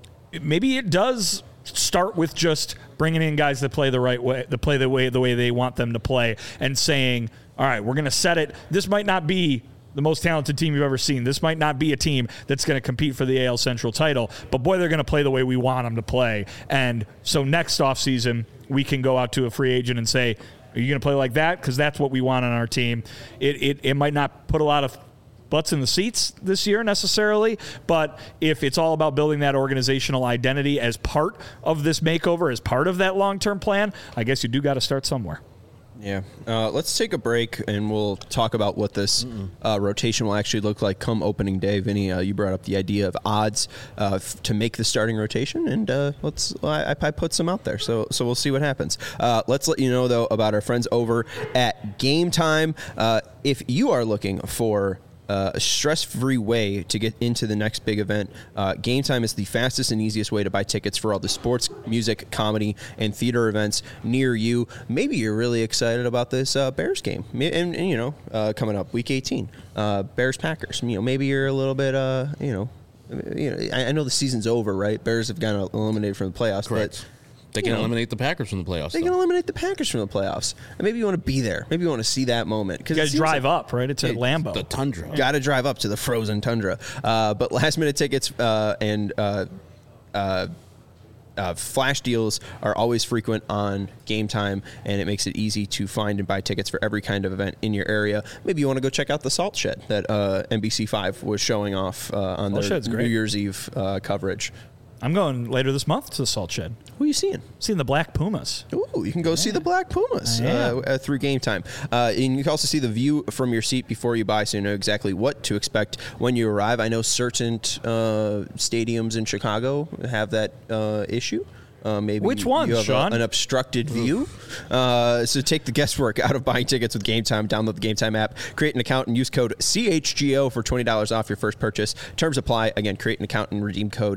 maybe it does start with just bringing in guys that play the right way, that play the way they want them to play, and saying, all right, we're going to set it. This might not be the most talented team you've ever seen. This might not be a team that's going to compete for the AL Central title, but boy, they're going to play the way we want them to play. And so next offseason, we can go out to a free agent and say, are you going to play like that? Because that's what we want on our team. It might not put a lot of butts in the seats this year necessarily, but if it's all about building that organizational identity as part of this makeover, as part of that long-term plan, I guess you do got to start somewhere. Yeah. Let's take a break, and we'll talk about what this rotation will actually look like come opening day. Vinny, you brought up the idea of odds to make the starting rotation, and I put some out there, so we'll see what happens. Let's let you know, though, about our friends over at Game Time. If you are looking for a stress-free way to get into the next big event, Game Time is the fastest and easiest way to buy tickets for all the sports, music, comedy, and theater events near you. Maybe you're really excited about this Bears game, and coming up week 18, Bears-Packers. Maybe you're a little bit, I know the season's over, right? Bears have gotten eliminated from the playoffs, correct. But they can eliminate the Packers from the playoffs. They can eliminate the Packers from the playoffs. And maybe you want to be there. Maybe you want to see that moment. You guys drive up, right? It's at Lambeau. The tundra. Got to drive up to the frozen tundra. But last-minute tickets and flash deals are always frequent on Game Time, and it makes it easy to find and buy tickets for every kind of event in your area. Maybe you want to go check out the Salt Shed that NBC5 was showing off on their New Year's Eve coverage. I'm going later this month to the Salt Shed. Who are you seeing? Seeing the Black Pumas. Ooh, you can go see the Black Pumas through Game Time. And you can also see the view from your seat before you buy, so you know exactly what to expect when you arrive. I know certain stadiums in Chicago have that issue. Maybe which one, you have Sean? An obstructed view. So take the guesswork out of buying tickets with Game Time. Download the Game Time app, create an account, and use code CHGO for $20 off your first purchase. Terms apply. Again, create an account and redeem code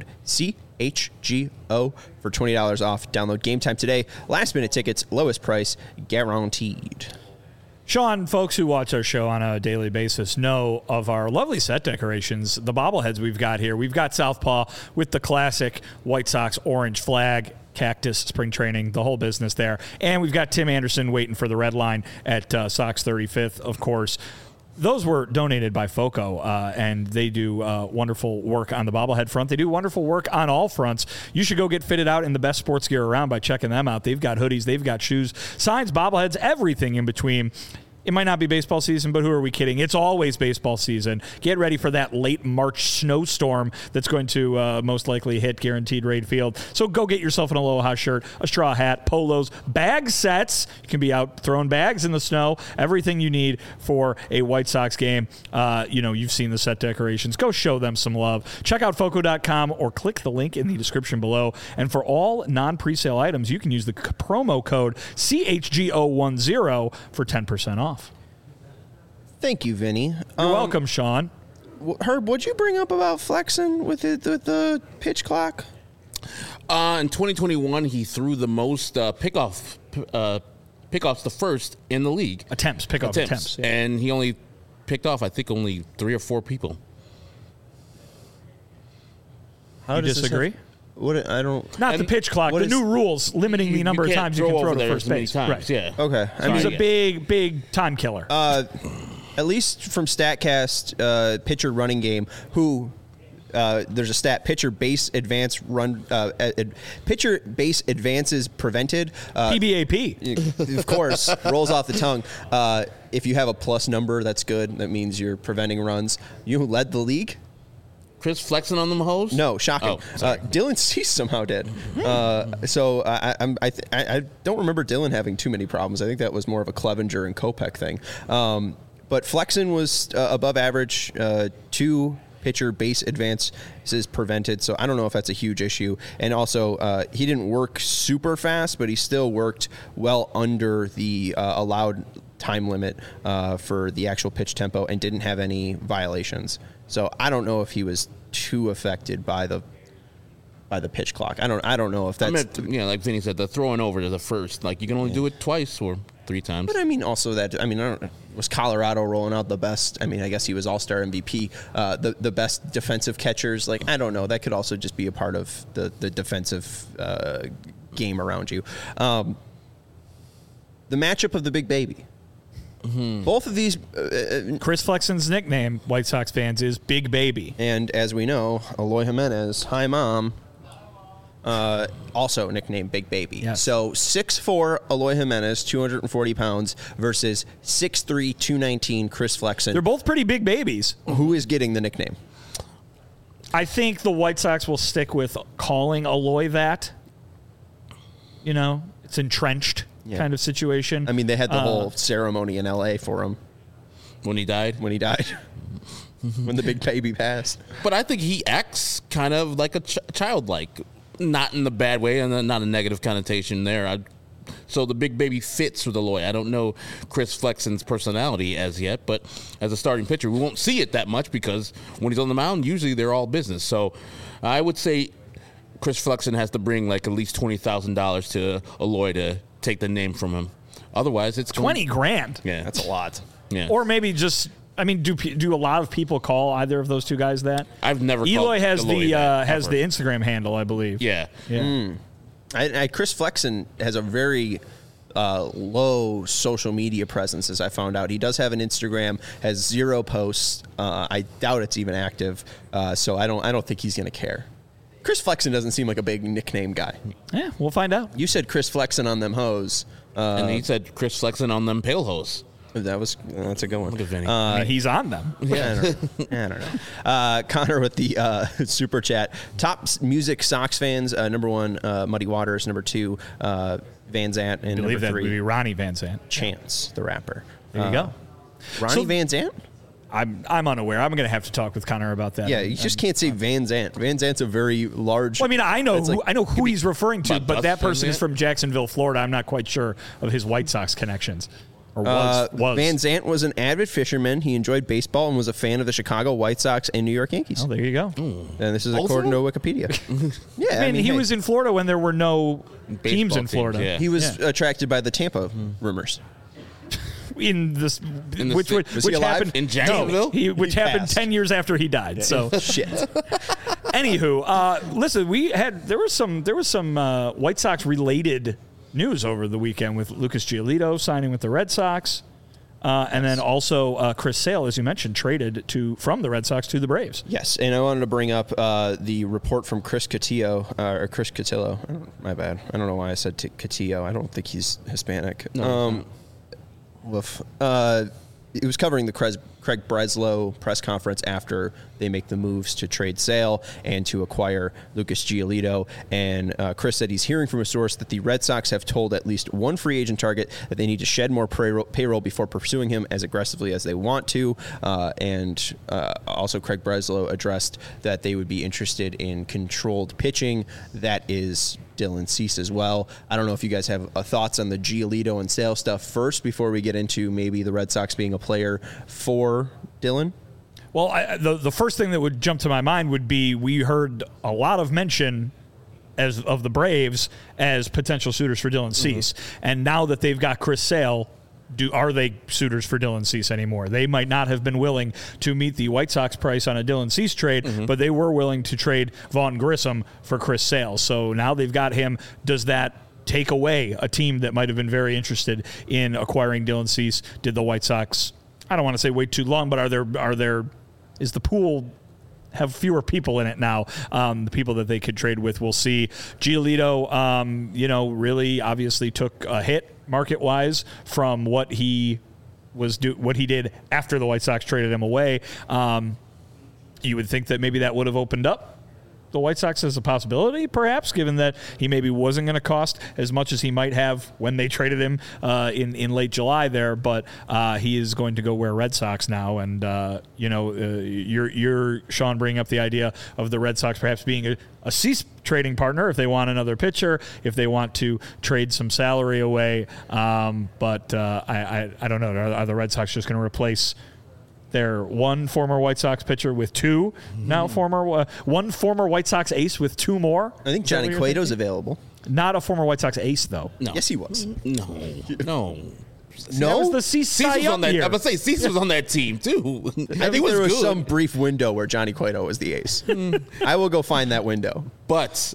CHGO for $20 off. Download Game Time today. Last minute tickets, lowest price guaranteed. Sean, folks who watch our show on a daily basis know of our lovely set decorations, the bobbleheads we've got here. We've got Southpaw with the classic White Sox orange flag, cactus, spring training, the whole business there. And we've got Tim Anderson waiting for the red line at Sox 35th, of course. Those were donated by FOCO, and they do wonderful work on the bobblehead front. They do wonderful work on all fronts. You should go get fitted out in the best sports gear around by checking them out. They've got hoodies, they've got shoes, signs, bobbleheads, everything in between. It might not be baseball season, but who are we kidding? It's always baseball season. Get ready for that late March snowstorm that's going to most likely hit Guaranteed Rate Field. So go get yourself an Aloha shirt, a straw hat, polos, bag sets. You can be out throwing bags in the snow. Everything you need for a White Sox game. You've seen the set decorations. Go show them some love. Check out FOCO.com or click the link in the description below. And for all non-presale items, you can use the promo code CHGO10 for 10% off. Thank you, Vinny. You're welcome, Sean. Herb, what'd you bring up about flexing with the pitch clock? In 2021, he threw the most pickoffs the first in the league. Pickoff attempts. Yeah. And he only picked off, I think, only 3 or 4 people. How do you disagree? The pitch clock. The new rules limiting the number of times you can throw to first base. Right. Yeah. Okay. It was a big time killer. At least from StatCast, pitcher running game, there's a stat, pitcher base advance run, pitcher base advances prevented. PBAP. Of course, rolls off the tongue. If you have a plus number, that's good. That means you're preventing runs. You led the league. Chris flexing on them hoes? No, shocking. Oh, Dylan Cease somehow did. So I don't remember Dylan having too many problems. I think that was more of a Clevenger and Kopech thing. But Flexen was above average. 2 pitcher base advances prevented. So I don't know if that's a huge issue. And also, he didn't work super fast, but he still worked well under the allowed time limit for the actual pitch tempo and didn't have any violations. So I don't know if he was too affected by the pitch clock. I don't know if that's like Vinny said, the throwing over to the first, like you can only do it twice or 3 times. But I mean, also was Colorado rolling out the best? I mean, I guess he was All-Star MVP, the best defensive catchers. Like I don't know. That could also just be a part of the defensive game around you. The matchup of the big baby. Mm-hmm. Both of these... Chris Flexen's nickname, White Sox fans, is Big Baby. And as we know, Eloy Jimenez, hi, Mom, also nicknamed Big Baby. Yes. So 6'4", Eloy Jimenez, 240 pounds, versus 6'3", 219, Chris Flexen. They're both pretty big babies. Who is getting the nickname? I think the White Sox will stick with calling Eloy that. It's entrenched. Yeah. Kind of situation. I mean, they had the whole ceremony in L.A. for him. When he died? When the big baby passed. But I think he acts kind of like a childlike. Not in the bad way, and not a negative connotation there. So the big baby fits with Eloy. I don't know Chris Flexen's personality as yet, but as a starting pitcher, we won't see it that much because when he's on the mound, usually they're all business. So I would say Chris Flexen has to bring like at least $20,000 to Eloy to take the name from him. Otherwise, it's $20,000. Yeah, that's a lot. Yeah, or maybe just. I mean, do a lot of people call either of those two guys that? I've never. Eloy has Eloy has the Instagram handle, I believe. Yeah. Chris Flexen has a very low social media presence, as I found out. He does have an Instagram, has 0 posts. I doubt it's even active. So I don't think he's going to care. Chris Flexen doesn't seem like a big nickname guy. Yeah, we'll find out. You said Chris Flexen on them hoes. And he said Chris Flexen on them pale hoes. That's a good one. Look at Vinny. I mean, he's on them. I don't know. Connor with the super chat. Top music Sox fans. Number 1, Muddy Waters. Number 2, Van Zant. And I believe number that 3, would be Ronnie Van Zant. Chance, the rapper. There you go. Ronnie Van Zant? I'm unaware. I'm going to have to talk with Connor about that. Yeah, you just can't say Van Zant. Van Zant's a very large. Well, I mean, I know who he's referring to, but that Van person is Zant? from Jacksonville, Florida. I'm not quite sure of his White Sox connections. Or was. Van Zant was an avid fisherman. He enjoyed baseball and was a fan of the Chicago White Sox and New York Yankees. Oh, there you go. And this is according to Wikipedia. Yeah, I mean, he hey, was in Florida when there were no teams in teams, Florida. yeah. He was attracted by the Tampa rumors. In this, the which state- Was he alive? happened In Jacksonville? which He happened passed. 10 years after he died. So, Shit. anywho, listen, there was some White Sox related news over the weekend with Lucas Giolito signing with the Red Sox. And then also Chris Sale, as you mentioned, traded from the Red Sox to the Braves. Yes, and I wanted to bring up the report from Chris Cotillo, or Chris Cotillo. My bad. I don't know why I said Cotillo. I don't think he's Hispanic. Woof. It was covering the Craig Breslow press conference after they make the moves to trade Sale and to acquire Lucas Giolito. And Chris said he's hearing from a source that the Red Sox have told at least one free agent target that they need to shed more payroll before pursuing him as aggressively as they want to. And also Craig Breslow addressed that they would be interested in controlled pitching. That is Dylan Cease as well. I don't know if you guys have thoughts on the Giolito and Sale stuff first before we get into maybe the Red Sox being a player for Dylan. Well, the first thing that would jump to my mind would be we heard a lot of mention of the Braves as potential suitors for Dylan Cease. And now that they've got Chris Sale, are they suitors for Dylan Cease anymore? They might not have been willing to meet the White Sox price on a Dylan Cease trade, but they were willing to trade Vaughn Grissom for Chris Sale. So now they've got him. Does that take away a team that might have been very interested in acquiring Dylan Cease? Did the White Sox, I don't want to say wait too long, but is the pool have fewer people in it now? The people that they could trade with, we'll see. Giolito, really obviously took a hit market-wise from what he did after the White Sox traded him away. You would think that maybe that would have opened up the White Sox as a possibility, perhaps, given that he maybe wasn't going to cost as much as he might have when they traded him in late July there. But he is going to go wear Red Sox now, and you're Sean bringing up the idea of the Red Sox perhaps being a Cease trading partner if they want another pitcher, if they want to trade some salary away. But I don't know. Are the Red Sox just going to replace their one former White Sox pitcher with two now one former White Sox ace with two more? I think Johnny Cueto's available. Not a former White Sox ace, though. No. Yes, he was. No. That was the Cease Cease Cy was Young on that. year. I'm gonna say Cease was on that team too. I think there was some brief window where Johnny Cueto was the ace. I will go find that window. But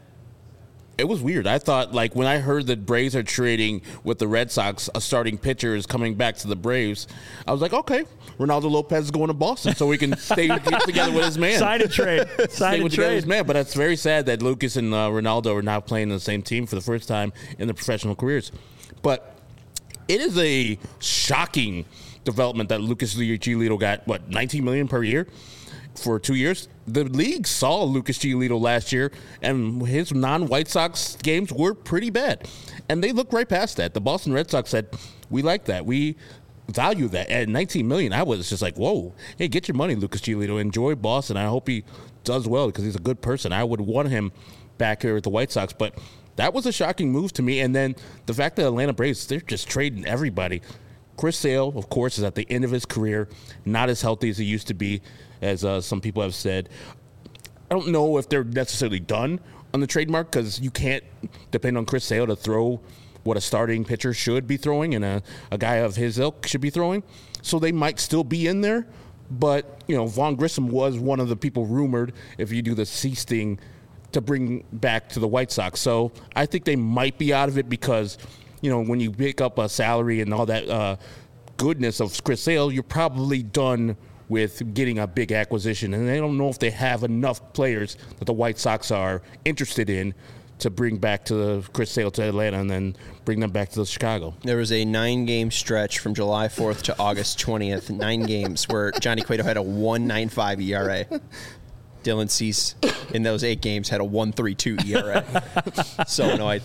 it was weird. I thought, like, when I heard that Braves are trading with the Red Sox, a starting pitcher is coming back to the Braves, I was like, okay, Ronaldo Lopez is going to Boston so we can get together with his man. Sign and trade. Sign and With trade. his man. But it's very sad that Lucas and Ronaldo are now playing on the same team for the first time in their professional careers. But it is a shocking development that Lucas Giolito got, $19 million per year for 2 years? The league saw Lucas Giolito last year, and his non-White Sox games were pretty bad. And they looked right past that. The Boston Red Sox said, we like that. We value that. At $19 million, I was just like, whoa, hey, get your money, Lucas Giolito. Enjoy Boston. I hope he does well because he's a good person. I would want him back here at the White Sox. But that was a shocking move to me. And then the fact that Atlanta Braves, they're just trading everybody. Chris Sale, of course, is at the end of his career, not as healthy as he used to be, as some people have said. I don't know if they're necessarily done on the trademark because you can't depend on Chris Sale to throw what a starting pitcher should be throwing and a guy of his ilk should be throwing. So they might still be in there. But, Vaughn Grissom was one of the people rumored, if you do the Cease thing, to bring back to the White Sox. So I think they might be out of it because when you pick up a salary and all that goodness of Chris Sale, you're probably done with getting a big acquisition, and they don't know if they have enough players that the White Sox are interested in to bring back to Chris Sale to Atlanta and then bring them back to Chicago. There was a 9-game stretch from July 4th to August 20th, 9 games where Johnny Cueto had a 1.95 ERA. Dylan Cease in those 8 games had a 1.32 ERA. So annoyed.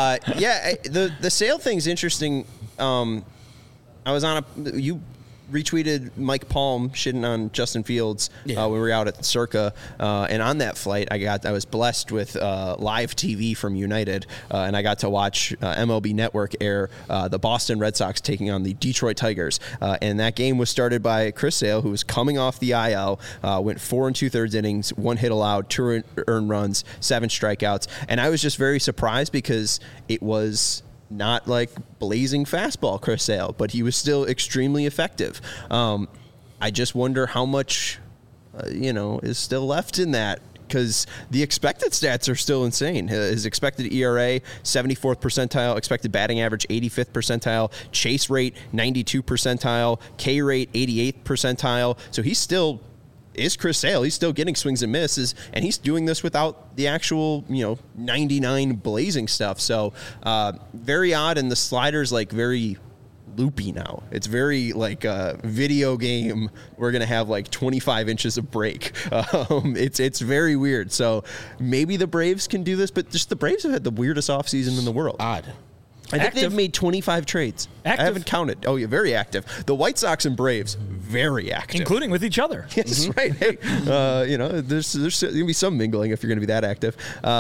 The Sale thing's interesting. I was on you retweeted Mike Palm shitting on Justin Fields when we were out at Circa, and on that flight I was blessed with live TV from United, and I got to watch MLB Network air the Boston Red Sox taking on the Detroit Tigers, and that game was started by Chris Sale, who was coming off the IL, went 4 2/3 innings, 1 hit allowed, 2 earned runs, 7 strikeouts, and I was just very surprised because it was not like blazing fastball Chris Sale, but he was still extremely effective. I just wonder how much, is still left in that, because the expected stats are still insane. His expected ERA, 74th percentile, expected batting average, 85th percentile, chase rate, 92 percentile, K rate, 88th percentile. So he's still is Chris Sale. He's still getting swings and misses, and he's doing this without the actual, 99 blazing stuff. So very odd, and the slider's like very loopy now. It's very like a video game. We're gonna have like 25 inches of break. It's very weird. So maybe the Braves can do this, but just the Braves have had the weirdest offseason in the world. Odd. I think they've made 25 trades. Active. I haven't counted. Oh, yeah, very active. The White Sox and Braves, very active. Including with each other. Yes, right. Hey, there's going to be some mingling if you're going to be that active.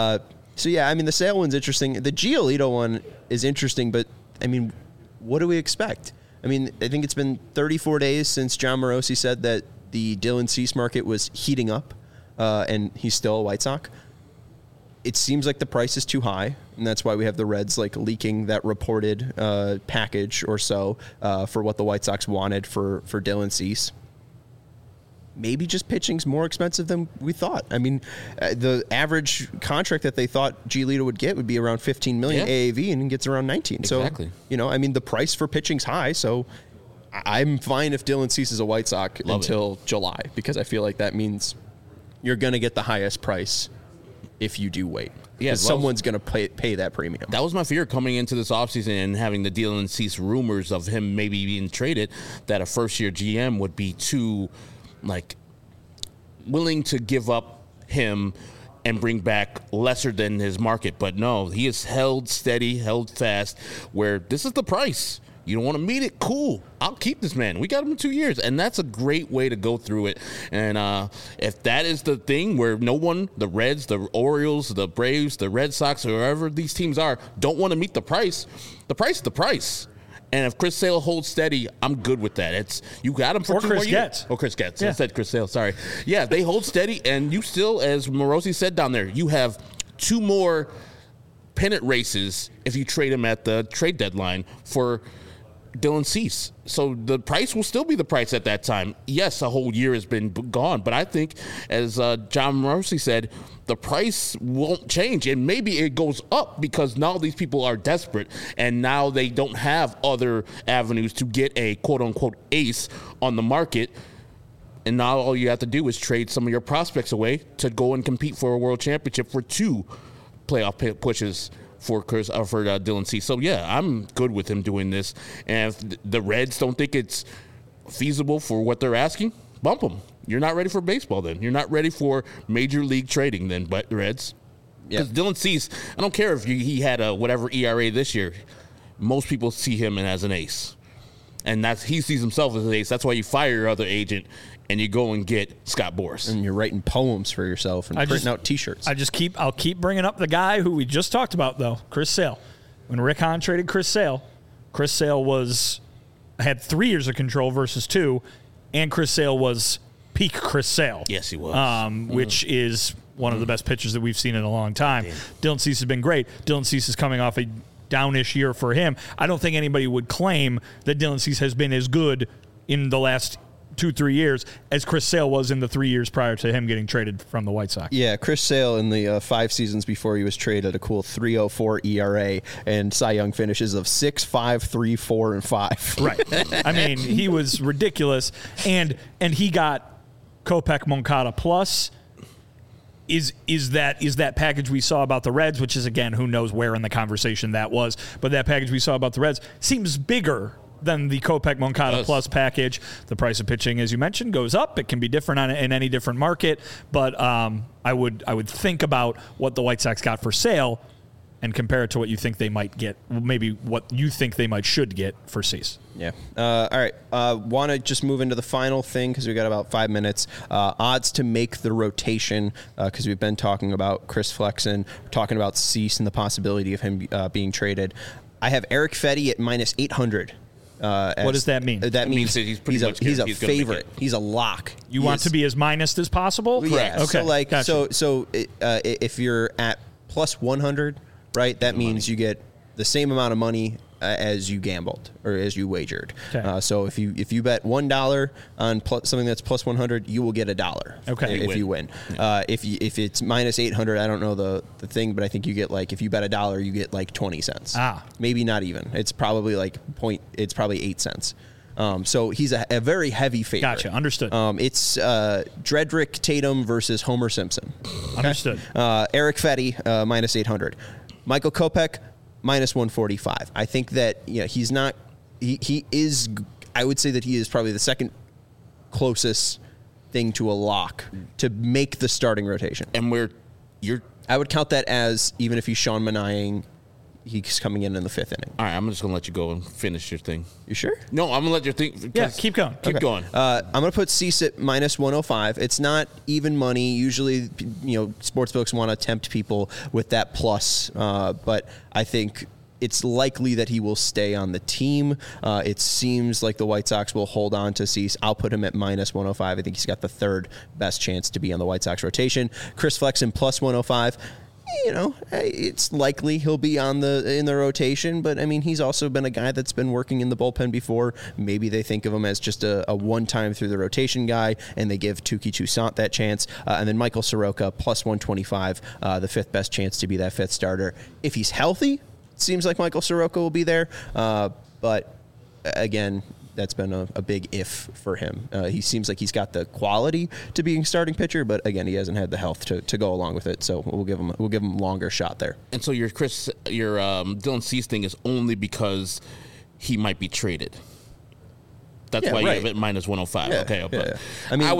The Sale one's interesting. The Giolito one is interesting, but, what do we expect? I think it's been 34 days since John Morosi said that the Dylan Cease market was heating up, and he's still a White Sox. It seems like the price is too high, and that's why we have the Reds leaking that reported package or so for what the White Sox wanted for Dylan Cease. Maybe just pitching's more expensive than we thought. The average contract that they thought Giolito would get would be around $15 million AAV, and he gets around 19. Exactly. So, the price for pitching's high, so I'm fine if Dylan Cease is a White Sox until July, because I feel like that means you're going to get the highest price if you do wait. Yeah, someone's going to pay that premium. That was my fear coming into this offseason and having the Dylan Cease rumors of him maybe being traded, that a first-year GM would be too, willing to give up him and bring back lesser than his market. But no, he has held steady, held fast, where this is the price. You don't want to meet it? Cool. I'll keep this man. We got him in 2 years, and that's a great way to go through it. And if that is the thing where no one, the Reds, the Orioles, the Braves, the Red Sox, or whoever these teams are, don't want to meet the price is the price. And if Chris Sale holds steady, I'm good with that. You got him for 2 more years. Getz. Oh, Chris Getz. Yeah. I said Chris Sale. Sorry. Yeah, they hold steady, and you still, as Morosi said down there, you have 2 more pennant races if you trade him at the trade deadline for Dylan Cease. So the price will still be the price at that time. Yes, a whole year has been gone, but I think, as John Morosi said, the price won't change, and maybe it goes up because now these people are desperate, and now they don't have other avenues to get a quote-unquote ace on the market, and now all you have to do is trade some of your prospects away to go and compete for a world championship for 2 playoff pushes for Dylan Cease. So, yeah, I'm good with him doing this. And if the Reds don't think it's feasible for what they're asking, bump them. You're not ready for baseball then. You're not ready for major league trading then, but Reds. Because Dylan Cease, I don't care if he had a whatever ERA this year. Most people see him as an ace. And he sees himself as an ace. That's why you fire your other agent and you go and get Scott Boras. And you're writing poems for yourself and printing out T-shirts. I'll keep bringing up the guy who we just talked about, though, Chris Sale. When Rick Hahn traded Chris Sale had 3 years of control versus 2, and Chris Sale was peak Chris Sale. Yes, he was. Which is one of the best pitchers that we've seen in a long time. Dylan Cease has been great. Dylan Cease is coming off a downish year for him. I don't think anybody would claim that Dylan Cease has been as good in the last 2-3 years as Chris Sale was in the 3 years prior to him getting traded from the White Sox. Yeah, Chris Sale in the 5 seasons before he was traded, a cool 3.04 ERA and Cy Young finishes of 6.5, 3, 4, and 5. Right. I mean, he was ridiculous, and he got Kopech Moncada plus. Is that package we saw about the Reds, which is, again, who knows where in the conversation that was, but that package we saw about the Reds seems bigger than the Kopech Moncada plus package. The price of pitching, as you mentioned, goes up. It can be different in any different market, but I would think about what the White Sox got for Sale and compare it to what you think they might get, maybe what you think they should get for Cease. Yeah. All right. Want to just move into the final thing because we got about 5 minutes. Odds to make the rotation because we've been talking about Chris Flexen, talking about Cease and the possibility of him being traded. I have Eric Fetty at minus 800. What does that mean? That means that he's a favorite. He's a lock. You want to be as minus as possible? Yeah. Okay. So if you're at plus 100, right, that means you get the same amount of money as you gambled or as you wagered. Okay. So if you bet $1 on something that's plus 100, you will get $1. Okay. If you win. If it's minus 800, I don't know the thing, but I think you get if you bet $1, you get 20 cents. Maybe not even. It's probably it's probably 8 cents. So he's a very heavy favorite. Gotcha. Understood. It's Dredrick Tatum versus Homer Simpson. Okay? Understood. Eric Fetty, minus 800. Michael Kopech, minus 145. I think that he's not. He is. I would say that he is probably the second closest thing to a lock to make the starting rotation. And I would count that as even if he's Sean Manaeing, he's coming in the 5th inning. All right, I'm just gonna let you go and finish your thing. You sure? No, I'm gonna let you think. Yeah, keep going. Keep going. I'm gonna put Cease at minus 105. It's not even money. Usually, sportsbooks want to tempt people with that plus, but I think it's likely that he will stay on the team. It seems like the White Sox will hold on to Cease. I'll put him at minus 105. I think he's got the third best chance to be on the White Sox rotation. Chris Flexen plus 105. It's likely he'll be in the rotation, but I mean, he's also been a guy that's been working in the bullpen before. Maybe they think of him as just a one-time through the rotation guy, and they give Touki Toussaint that chance. And then Michael Soroka plus 125, the 5th best chance to be that 5th starter. If he's healthy, it seems like Michael Soroka will be there. But again, that's been a big if for him. He seems like he's got the quality to being starting pitcher, but again, he hasn't had the health to go along with it. So we'll give him a longer shot there. And so your Dylan Cease thing is only because he might be traded. That's why you have it minus 105. Yeah, okay, yeah. I mean,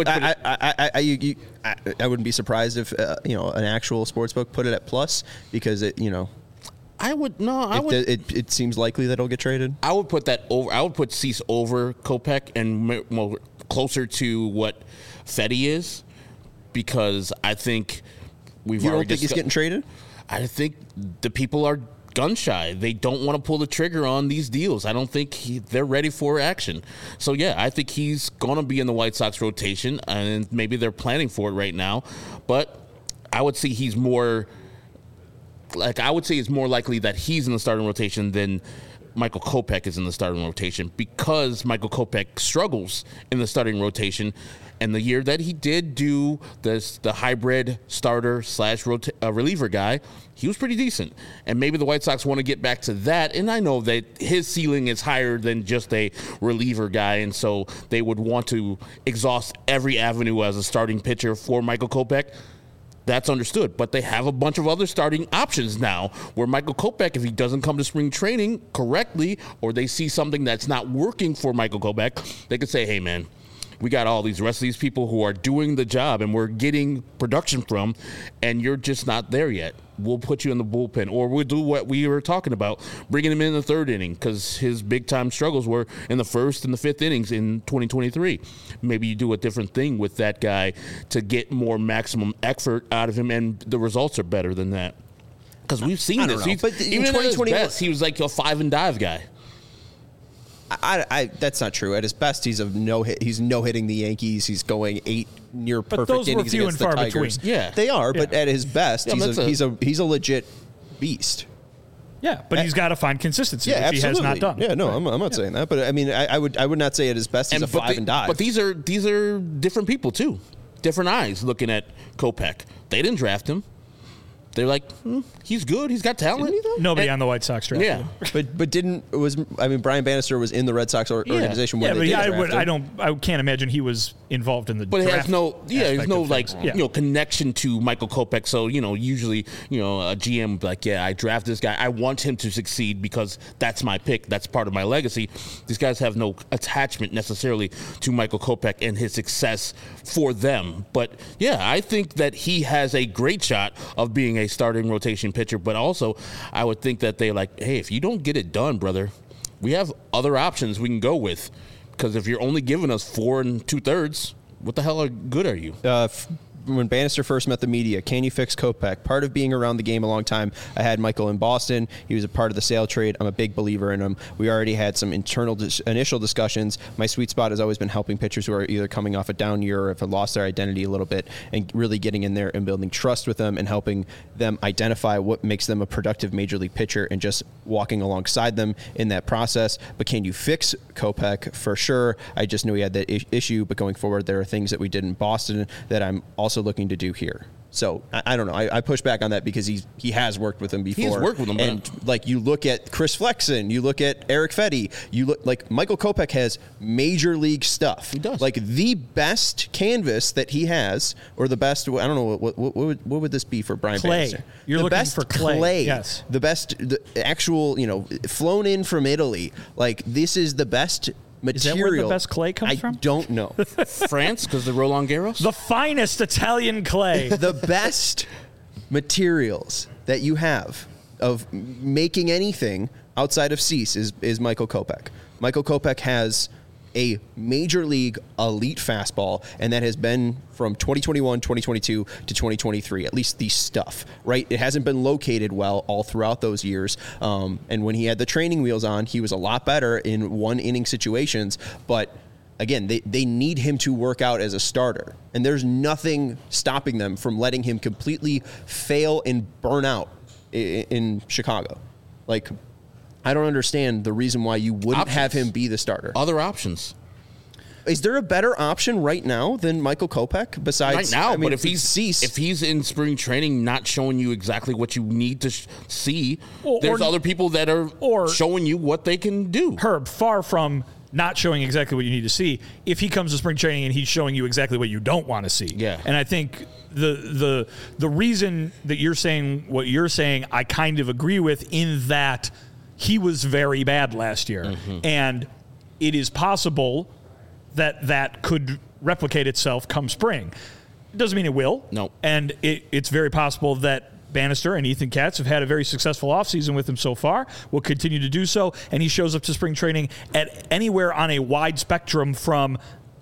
I wouldn't be surprised if an actual sportsbook put it at plus because it. It seems likely that he'll get traded. I would put that over. I would put Cease over Kopech and more closer to what Fetty is, because I think we've You already. don't think he's getting traded? I think the people are gun shy. They don't want to pull the trigger on these deals. I don't think they're ready for action. So yeah, I think he's going to be in the White Sox rotation, and maybe they're planning for it right now. But I would say he's more. I would say it's more likely that he's in the starting rotation than Michael Kopech is in the starting rotation, because Michael Kopech struggles in the starting rotation. And the year that he did do the hybrid starter / reliever guy, he was pretty decent. And maybe the White Sox want to get back to that. And I know that his ceiling is higher than just a reliever guy, and so they would want to exhaust every avenue as a starting pitcher for Michael Kopech. That's understood, but they have a bunch of other starting options now where Michael Kopech, if he doesn't come to spring training correctly, or they see something that's not working for Michael Kopech, they could say, hey, man, we got all these rest of these people who are doing the job and we're getting production from, and you're just not there yet. We'll put you in the bullpen, or we'll do what we were talking about, bringing him in the 3rd inning, because his big-time struggles were in the 1st and the 5th innings in 2023. Maybe you do a different thing with that guy to get more maximum effort out of him, and the results are better than that. Because we've seen this. But even in his best, he was like a 5-and-dive guy. That's not true. At his best, he's no-hitting the Yankees. He's going 8 near perfect those were innings few against and the far Tigers. between. Yeah, they are. But at his best, he's a legit beast. Yeah, but he's got to find consistency, which absolutely. he has not done. Yeah, no, I'm not saying that, but I mean, I would not say at his best he's a 5 and dive. But these are different people too, different eyes looking at Kopech. They didn't draft him. They're like, he's good. He's got talent. Nobody on the White Sox drafted Yeah, him. but Brian Bannister was in the Red Sox organization when Yeah, they but did draft him. I can't imagine he was involved in the but it draft. has no, there's no like, Yeah. connection to Michael Kopech. So usually, a GM would be like, I draft this guy. I want him to succeed because that's my pick. That's part of my legacy. These guys have no attachment necessarily to Michael Kopech and his success for them. But yeah, I think that he has a great shot of being a starting rotation pitcher. But also, I would think that they like, hey, if you don't get it done, brother, we have other options we can go with. Because if you're only giving us 4 2/3, what the hell good are you? When Bannister first met the media, can you fix Kopech? Part of being around the game a long time, I had Michael in Boston. He was a part of the sale trade. I'm a big believer in him. We already had some initial discussions. My sweet spot has always been helping pitchers who are either coming off a down year or have lost their identity a little bit and really getting in there and building trust with them and helping them identify what makes them a productive major league pitcher and just walking alongside them in that process. But can you fix Kopech? For sure. I just knew he had that issue, but going forward, there are things that we did in Boston that I'm also looking to do here. So I don't know. I push back on that because he has worked with him before. He's worked with him, and like you look at Chris Flexen, you look at Eric Fetty, you look like Michael Kopech has major league stuff. He does. Like the best canvas that he has, or the best. I don't know what would this be for Brian Clay. Bannister? You're the looking best for clay. Yes. The best, the actual, flown in from Italy. Like this is the best material. Is that where the best clay comes from? I don't know. France, because the Roland Garros? The finest Italian clay. The best materials that you have of making anything outside of Cease is Michael Kopech. Michael Kopech has a major league elite fastball, and that has been from 2021, 2022 to 2023, at least the stuff, right? It hasn't been located well all throughout those years. And when he had the training wheels on, he was a lot better in one inning situations, but again, they need him to work out as a starter, and there's nothing stopping them from letting him completely fail and burn out in Chicago. Like, I don't understand the reason why you wouldn't have him be the starter. Other options. Is there a better option right now than Michael Kopech besides Right now, I mean, but if he's in spring training not showing you exactly what you need to see, there's other people that are showing you what they can do. Herb, far from not showing exactly what you need to see, if he comes to spring training and he's showing you exactly what you don't want to see. Yeah. And I think the reason that you're saying what you're saying, I kind of agree with, in that he was very bad last year. Mm-hmm. And it is possible that could replicate itself come spring. It doesn't mean it will. No. And it's very possible that Bannister and Ethan Katz have had a very successful offseason with him so far, will continue to do so, and he shows up to spring training at anywhere on a wide spectrum from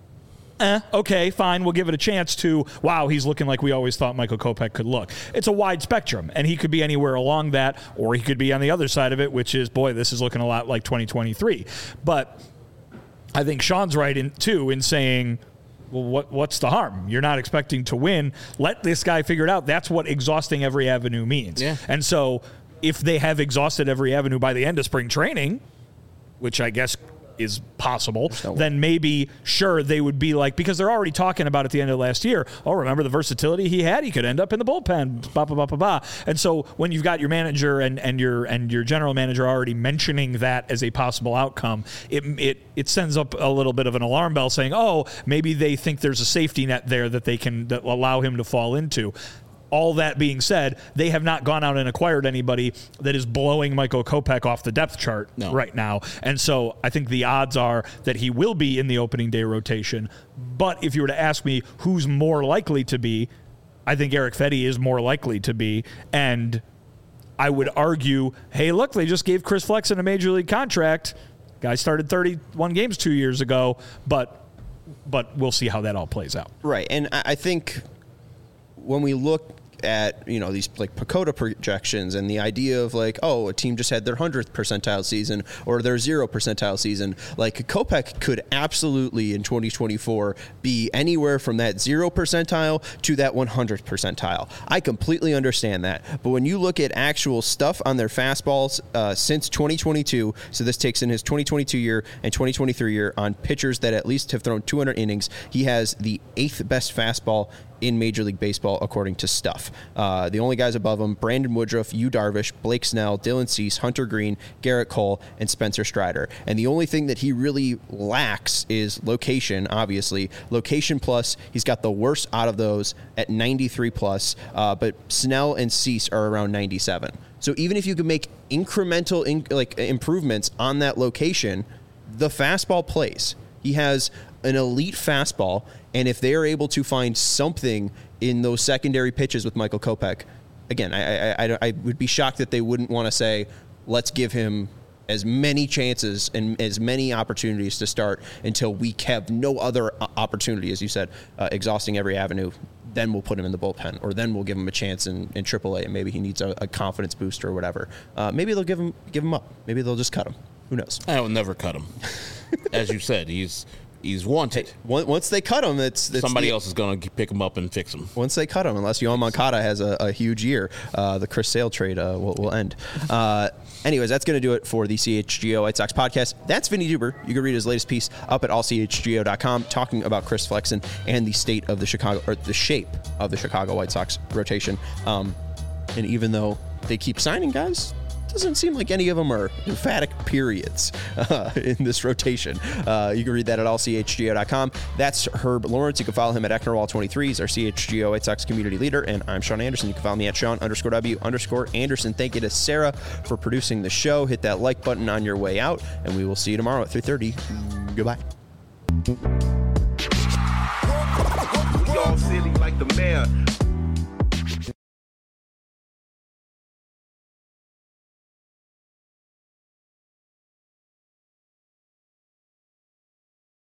okay, fine, we'll give it a chance, to, wow, he's looking like we always thought Michael Kopech could look. It's a wide spectrum, and he could be anywhere along that, or he could be on the other side of it, which is, boy, this is looking a lot like 2023. But I think Sean's right in saying, well, what's the harm? You're not expecting to win. Let this guy figure it out. That's what exhausting every avenue means. Yeah. And so if they have exhausted every avenue by the end of spring training, which I guess is possible, then maybe, sure, they would be like, because they're already talking about at the end of last year, oh, remember the versatility he had? He could end up in the bullpen, blah, blah, blah, blah, blah. And so when you've got your manager and your general manager already mentioning that as a possible outcome, it sends up a little bit of an alarm bell saying, oh, maybe they think there's a safety net there that allow him to fall into. All that being said, they have not gone out and acquired anybody that is blowing Michael Kopech off the depth chart right now. And so I think the odds are that he will be in the opening day rotation. But if you were to ask me who's more likely to be, I think Eric Fetty is more likely to be. And I would argue, hey, look, they just gave Chris Flexen a major league contract. Guy started 31 games 2 years ago, but we'll see how that all plays out. Right. And I think when we look at, these like Pacoda projections and the idea of like, oh, a team just had their 100th percentile season or their 0 percentile season, like Kopech could absolutely in 2024 be anywhere from that 0 percentile to that 100th percentile. I completely understand that. But when you look at actual stuff on their fastballs since 2022, so this takes in his 2022 year and 2023 year on pitchers that at least have thrown 200 innings, he has the 8th best fastball in Major League Baseball, according to Stuff. The only guys above him, Brandon Woodruff, Yu Darvish, Blake Snell, Dylan Cease, Hunter Green, Garrett Cole, and Spencer Strider. And the only thing that he really lacks is location, obviously. Location plus, he's got the worst out of those at 93 plus, but Snell and Cease are around 97. So even if you could make incremental improvements on that location, the fastball plays. He has an elite fastball, and if they are able to find something in those secondary pitches with Michael Kopech, again, I would be shocked that they wouldn't want to say, let's give him as many chances and as many opportunities to start until we have no other opportunity, as you said, exhausting every avenue. Then we'll put him in the bullpen, or then we'll give him a chance in AAA, and maybe he needs a confidence booster or whatever. Maybe they'll give him up. Maybe they'll just cut him. Who knows? I will never cut him. As you said, he's wanted. Once they cut him, it's somebody else is going to pick him up and fix him. Once they cut him, unless Yohan Moncada has a huge year, the Chris Sale trade will end. Anyways, that's going to do it for the CHGO White Sox podcast. That's Vinny Duber. You can read his latest piece up at allchgo.com talking about Chris Flexen and the state of the shape of the Chicago White Sox rotation. And even though they keep signing guys, doesn't seem like any of them are emphatic periods in this rotation. You can read that at allchgo.com. That's Herb Lawrence. You can follow him at Ecknerwall23. He's our CHGO White Sox community leader. And I'm Sean Anderson. You can follow me at Sean_W_Anderson. Thank you to Sarah for producing the show. Hit that like button on your way out, and we will see you tomorrow at 3:30. Goodbye. We all silly like the mayor.